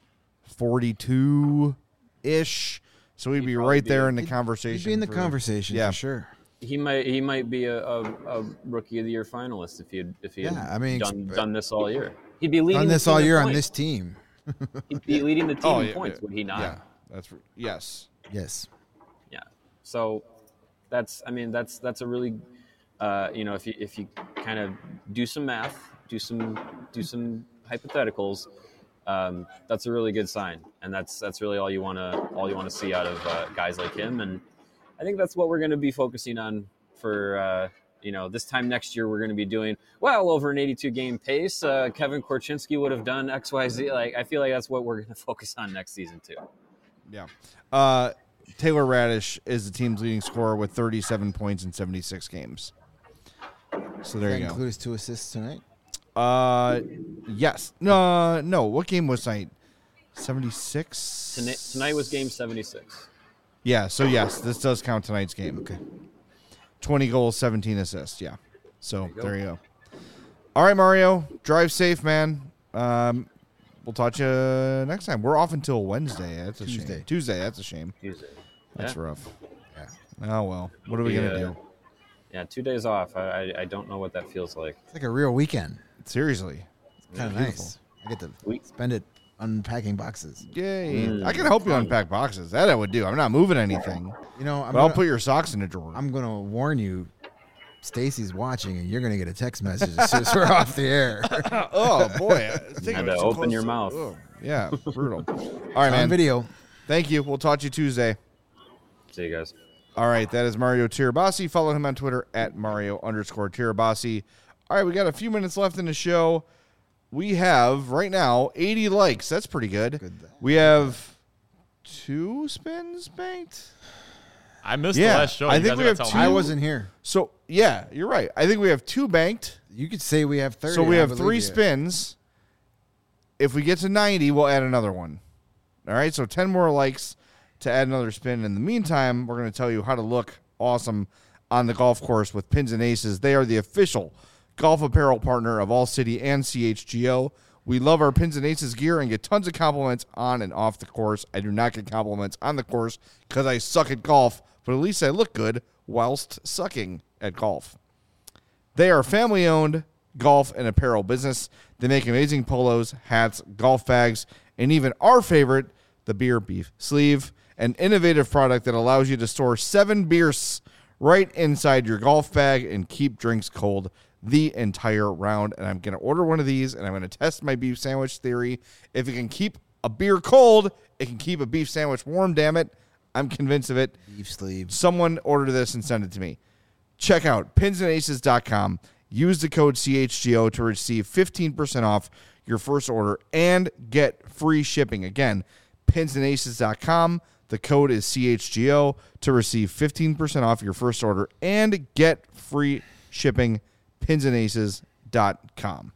42-ish. So he'd be right there in the conversation. He'd be in the conversation, for sure. He might be a Rookie of the Year finalist if he had done this all year. He'd be leading this all year on this team. He'd be leading the team in points, would he not? Yeah, yes. Yes. Yeah. So that's a really if you kind of do some math, do some hypotheticals, that's a really good sign, and that's really all you want to see out of guys like him. And I think that's what we're going to be focusing on for this time next year. We're going to be doing well over an 82-game pace. Kevin Korchinski would have done XYZ. Like, I feel like that's what we're going to focus on next season too. Yeah. Taylor Radish is the team's leading scorer with 37 points in 76 games. So there you go. Include his 2 assists tonight? Yes. No. What game was tonight? 76? Tonight was game 76. Yeah, so yes, this does count tonight's game. Okay. 20 goals, 17 assists, yeah. So there you go. All right, Mario, drive safe, man. We'll talk to you next time. We're off until Wednesday. That's a shame. Tuesday, that's a shame. Tuesday. That's rough. Yeah. Oh, well. What are we going to do? Yeah, 2 days off. I don't know what that feels like. It's like a real weekend. Seriously. It's kind of nice. I get to spend it unpacking boxes. Yay. I can help you unpack boxes. That I would do. I'm not moving anything. I'll put your socks in a drawer. I'm going to warn you, Stacy's watching, and you're going to get a text message as soon as we're off the air. Oh, boy. You had to open your mouth. Oh, yeah, brutal. All right, man. On video. Thank you. We'll talk to you Tuesday. See you guys. All right, that is Mario Tirabassi. Follow him on Twitter at Mario_Tirabassi. All right, we got a few minutes left in the show. We have, right now, 80 likes. That's pretty good. We have 2 spins banked. I missed the last show. I think we have 2. I wasn't here. So, yeah, you're right. I think we have 2 banked. You could say we have 30. So we have 3 spins. If we get to 90, we'll add another one. All right, so 10 more likes to add another spin. In the meantime, we're going to tell you how to look awesome on the golf course with Pins and Aces. They are the official golf apparel partner of All City and CHGO. We love our Pins and Aces gear and get tons of compliments on and off the course. I do not get compliments on the course because I suck at golf, but at least I look good whilst sucking at golf. They are family-owned golf and apparel business. They make amazing polos, hats, golf bags, and even our favorite, the beer beef sleeve, an innovative product that allows you to store 7 beers right inside your golf bag and keep drinks cold the entire round. And I'm going to order one of these, and I'm going to test my beef sandwich theory. If it can keep a beer cold, it can keep a beef sandwich warm, damn it. I'm convinced of it. Beef sleeve. Someone order this and send it to me. Check out pinsandaces.com. Use the code CHGO to receive 15% off your first order and get free shipping. Again, pinsandaces.com. The code is CHGO to receive 15% off your first order and get free shipping. Pinsandaces.com.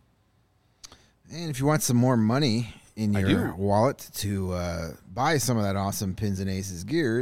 And if you want some more money in your wallet to buy some of that awesome Pins and Aces gear,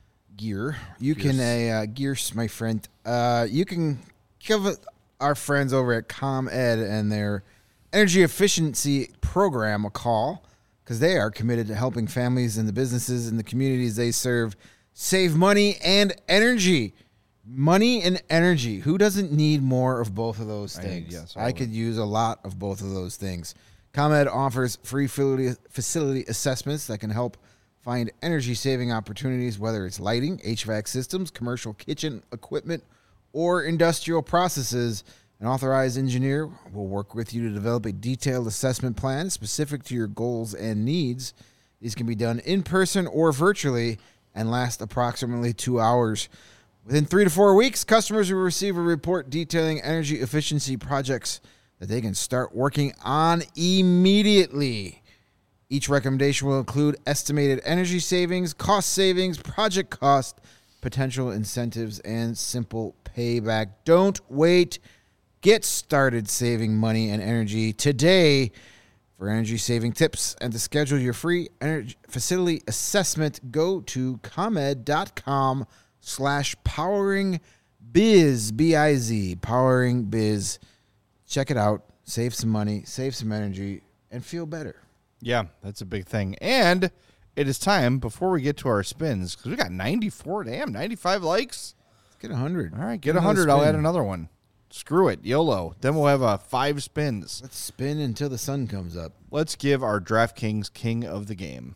you can gears, my friend. You can give our friends over at ComEd and their energy efficiency program a call, because they are committed to helping families and the businesses and the communities they serve save money and energy. Money and energy. Who doesn't need more of both of those things? I could use a lot of both of those things. ComEd offers free facility assessments that can help find energy-saving opportunities, whether it's lighting, HVAC systems, commercial kitchen equipment, or industrial processes. An authorized engineer will work with you to develop a detailed assessment plan specific to your goals and needs. These can be done in person or virtually and last approximately 2 hours. Within 3 to 4 weeks, customers will receive a report detailing energy efficiency projects that they can start working on immediately. Each recommendation will include estimated energy savings, cost savings, project cost, potential incentives, and simple payback. Don't wait. Get started saving money and energy today. For energy saving tips and to schedule your free energy facility assessment, go to ComEd.com/poweringbiz, B-I-Z, Powering Biz. Check it out. Save some money, save some energy, and feel better. Yeah, that's a big thing. And it is time, before we get to our spins, because we got 95 likes. Let's get 100. All right, get 100. I'll add another one. Screw it, YOLO. Then we'll have 5 spins. Let's spin until the sun comes up. Let's give our DraftKings king of the game.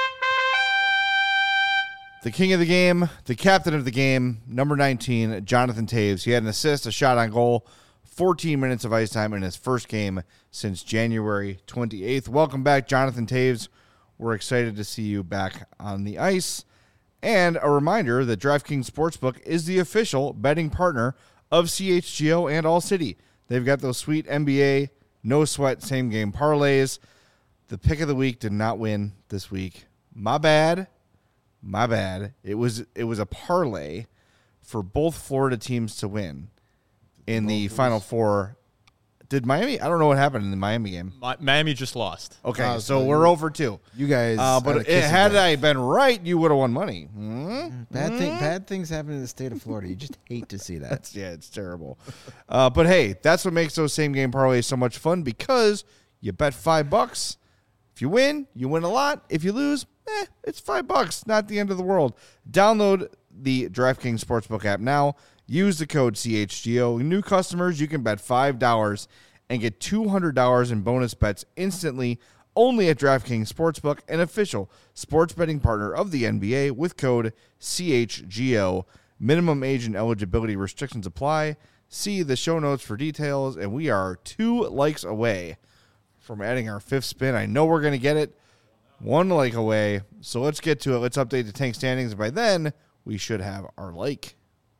The king of the game, the captain of the game, number 19, Jonathan Toews. He had an assist, a shot on goal, 14 minutes of ice time in his first game since January 28th. Welcome back, Jonathan Toews. We're excited to see you back on the ice. And a reminder that DraftKings Sportsbook is the official betting partner of CHGO and All City. They've got those sweet NBA, no sweat, same game parlays. The pick of the week did not win this week. My bad. It was a parlay for both Florida teams to win in the Final Four. Did Miami? I don't know what happened in the Miami game. Miami just lost. Okay, so we're over 2. You guys, but had I been right, you would have won money. Bad things happen in the state of Florida. You just hate to see that. Yeah, it's terrible. But hey, that's what makes those same game parlays so much fun, because you bet $5. If you win a lot. If you lose, it's $5. Not the end of the world. Download the DraftKings Sportsbook app now. Use the code CHGO. New customers, you can bet $5 and get $200 in bonus bets instantly, only at DraftKings Sportsbook, an official sports betting partner of the NBA, with code CHGO. Minimum age and eligibility restrictions apply. See the show notes for details, and we are 2 likes away from adding our 5th spin. I know we're going to get it 1 like away, so let's get to it. Let's update the tank standings. By then, we should have our like.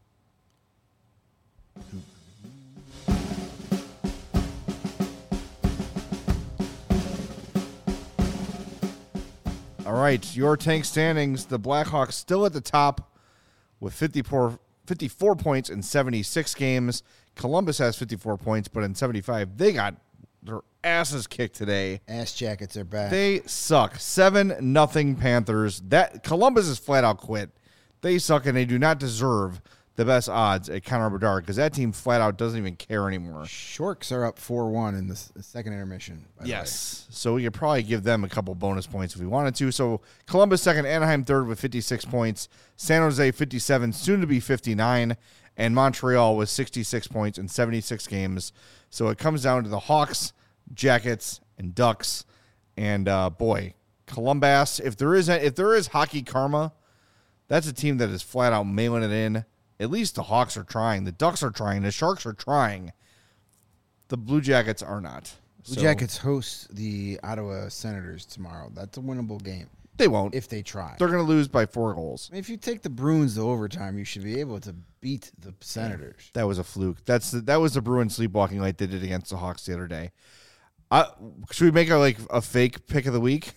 All right, your tank standings. The Blackhawks still at the top with 54 points in 76 games. Columbus has 54 points, but in 75, they got their asses kicked today. Ass Jackets are back. They suck. 7-0 Panthers. That Columbus is flat out quit. They suck, and they do not deserve the best odds at Connor Bedard, because that team flat out doesn't even care anymore. Sharks are up 4-1 in the second intermission. Yes. So we could probably give them a couple bonus points if we wanted to. So Columbus second, Anaheim third with 56 points, San Jose 57, soon to be 59, and Montreal with 66 points in 76 games. So it comes down to the Hawks, Jackets, and Ducks. And boy, Columbus, if there is hockey karma, that's a team that is flat out mailing it in. At least the Hawks are trying. The Ducks are trying. The Sharks are trying. The Blue Jackets are not. Blue Jackets host the Ottawa Senators tomorrow. That's a winnable game. They won't. If they try. They're going to lose by 4 goals. I mean, if you take the Bruins to overtime, you should be able to beat the Senators. That was a fluke. That was the Bruins sleepwalking like they did against the Hawks the other day. Should we make a fake pick of the week?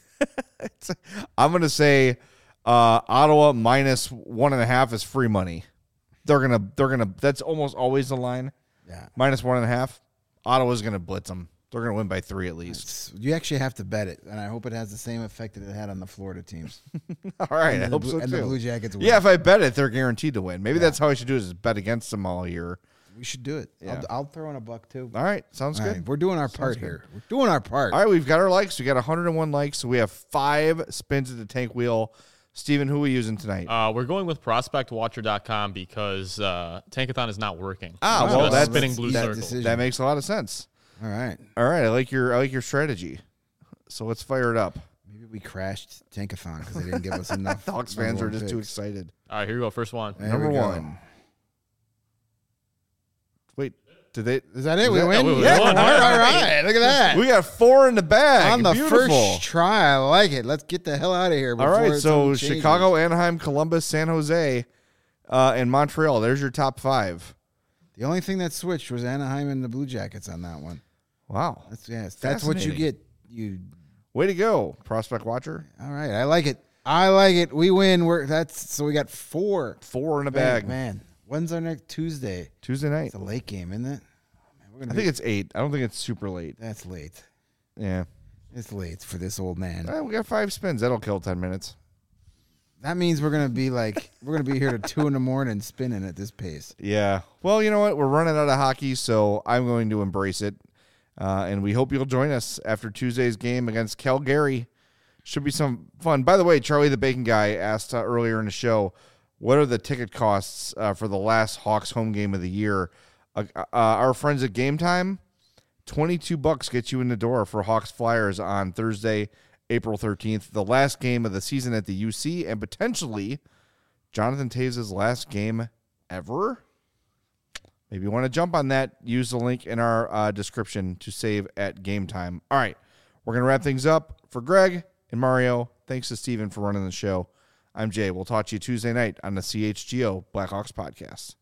I'm going to say Ottawa minus 1.5 is free money. They're gonna. That's almost always the line. Yeah, minus 1.5. Ottawa's gonna blitz them. They're gonna win by 3 at least. You actually have to bet it, and I hope it has the same effect that it had on the Florida teams. All right, I hope so too. And the Blue Jackets win. Yeah, if I bet it, they're guaranteed to win. Maybe that's how I should do it: is bet against them all year. We should do it. Yeah. I'll throw in a buck too. All right, sounds good. Right, we're doing our part here. We're doing our part. All right, we've got our likes. We got 101 likes, so we have 5 spins at the tank wheel. Steven, who are we using tonight? We're going with ProspectWatcher.com because Tankathon is not working. Well, that's spinning blue circles. That makes a lot of sense. All right. I like your strategy. So let's fire it up. Maybe we crashed Tankathon because they didn't give us enough. Hawks fans are just too excited. All right, here we go. First one. Number 1. Wait, did they? Is that it? We win? Yeah. All right. Look at that. We got 4 in the bag. On the Beautiful. first try. I like it. Let's get the hell out of here. All right, so Chicago, Anaheim, Columbus, San Jose. and Montreal. There's your top 5. The only thing that switched was Anaheim and the Blue Jackets on that one. Wow. That's what you get. Way to go, Prospect Watcher. All right, I like it. We win. So we got 4. 4 in a bag. Man, when's our next Tuesday? Tuesday night. It's a late game, isn't it? Oh, man, I think it's 8. I don't think it's super late. That's late. Yeah. It's late for this old man. We got 5 spins. That'll kill 10 minutes. That means we're gonna be here to 2 a.m. spinning at this pace. Yeah. Well, you know what? We're running out of hockey, so I'm going to embrace it. And we hope you'll join us after Tuesday's game against Calgary. Should be some fun. By the way, Charlie the Bacon Guy asked earlier in the show, what are the ticket costs for the last Hawks home game of the year? Our friends at Game Time, $22 gets you in the door for Hawks Flyers on Thursday, April 13th, the last game of the season at the UC, and potentially Jonathan Toews' last game ever. Maybe you want to jump on that. Use the link in our description to save at Game Time. All right, we're going to wrap things up. For Greg and Mario, thanks to Steven for running the show. I'm Jay. We'll talk to you Tuesday night on the CHGO Blackhawks podcast.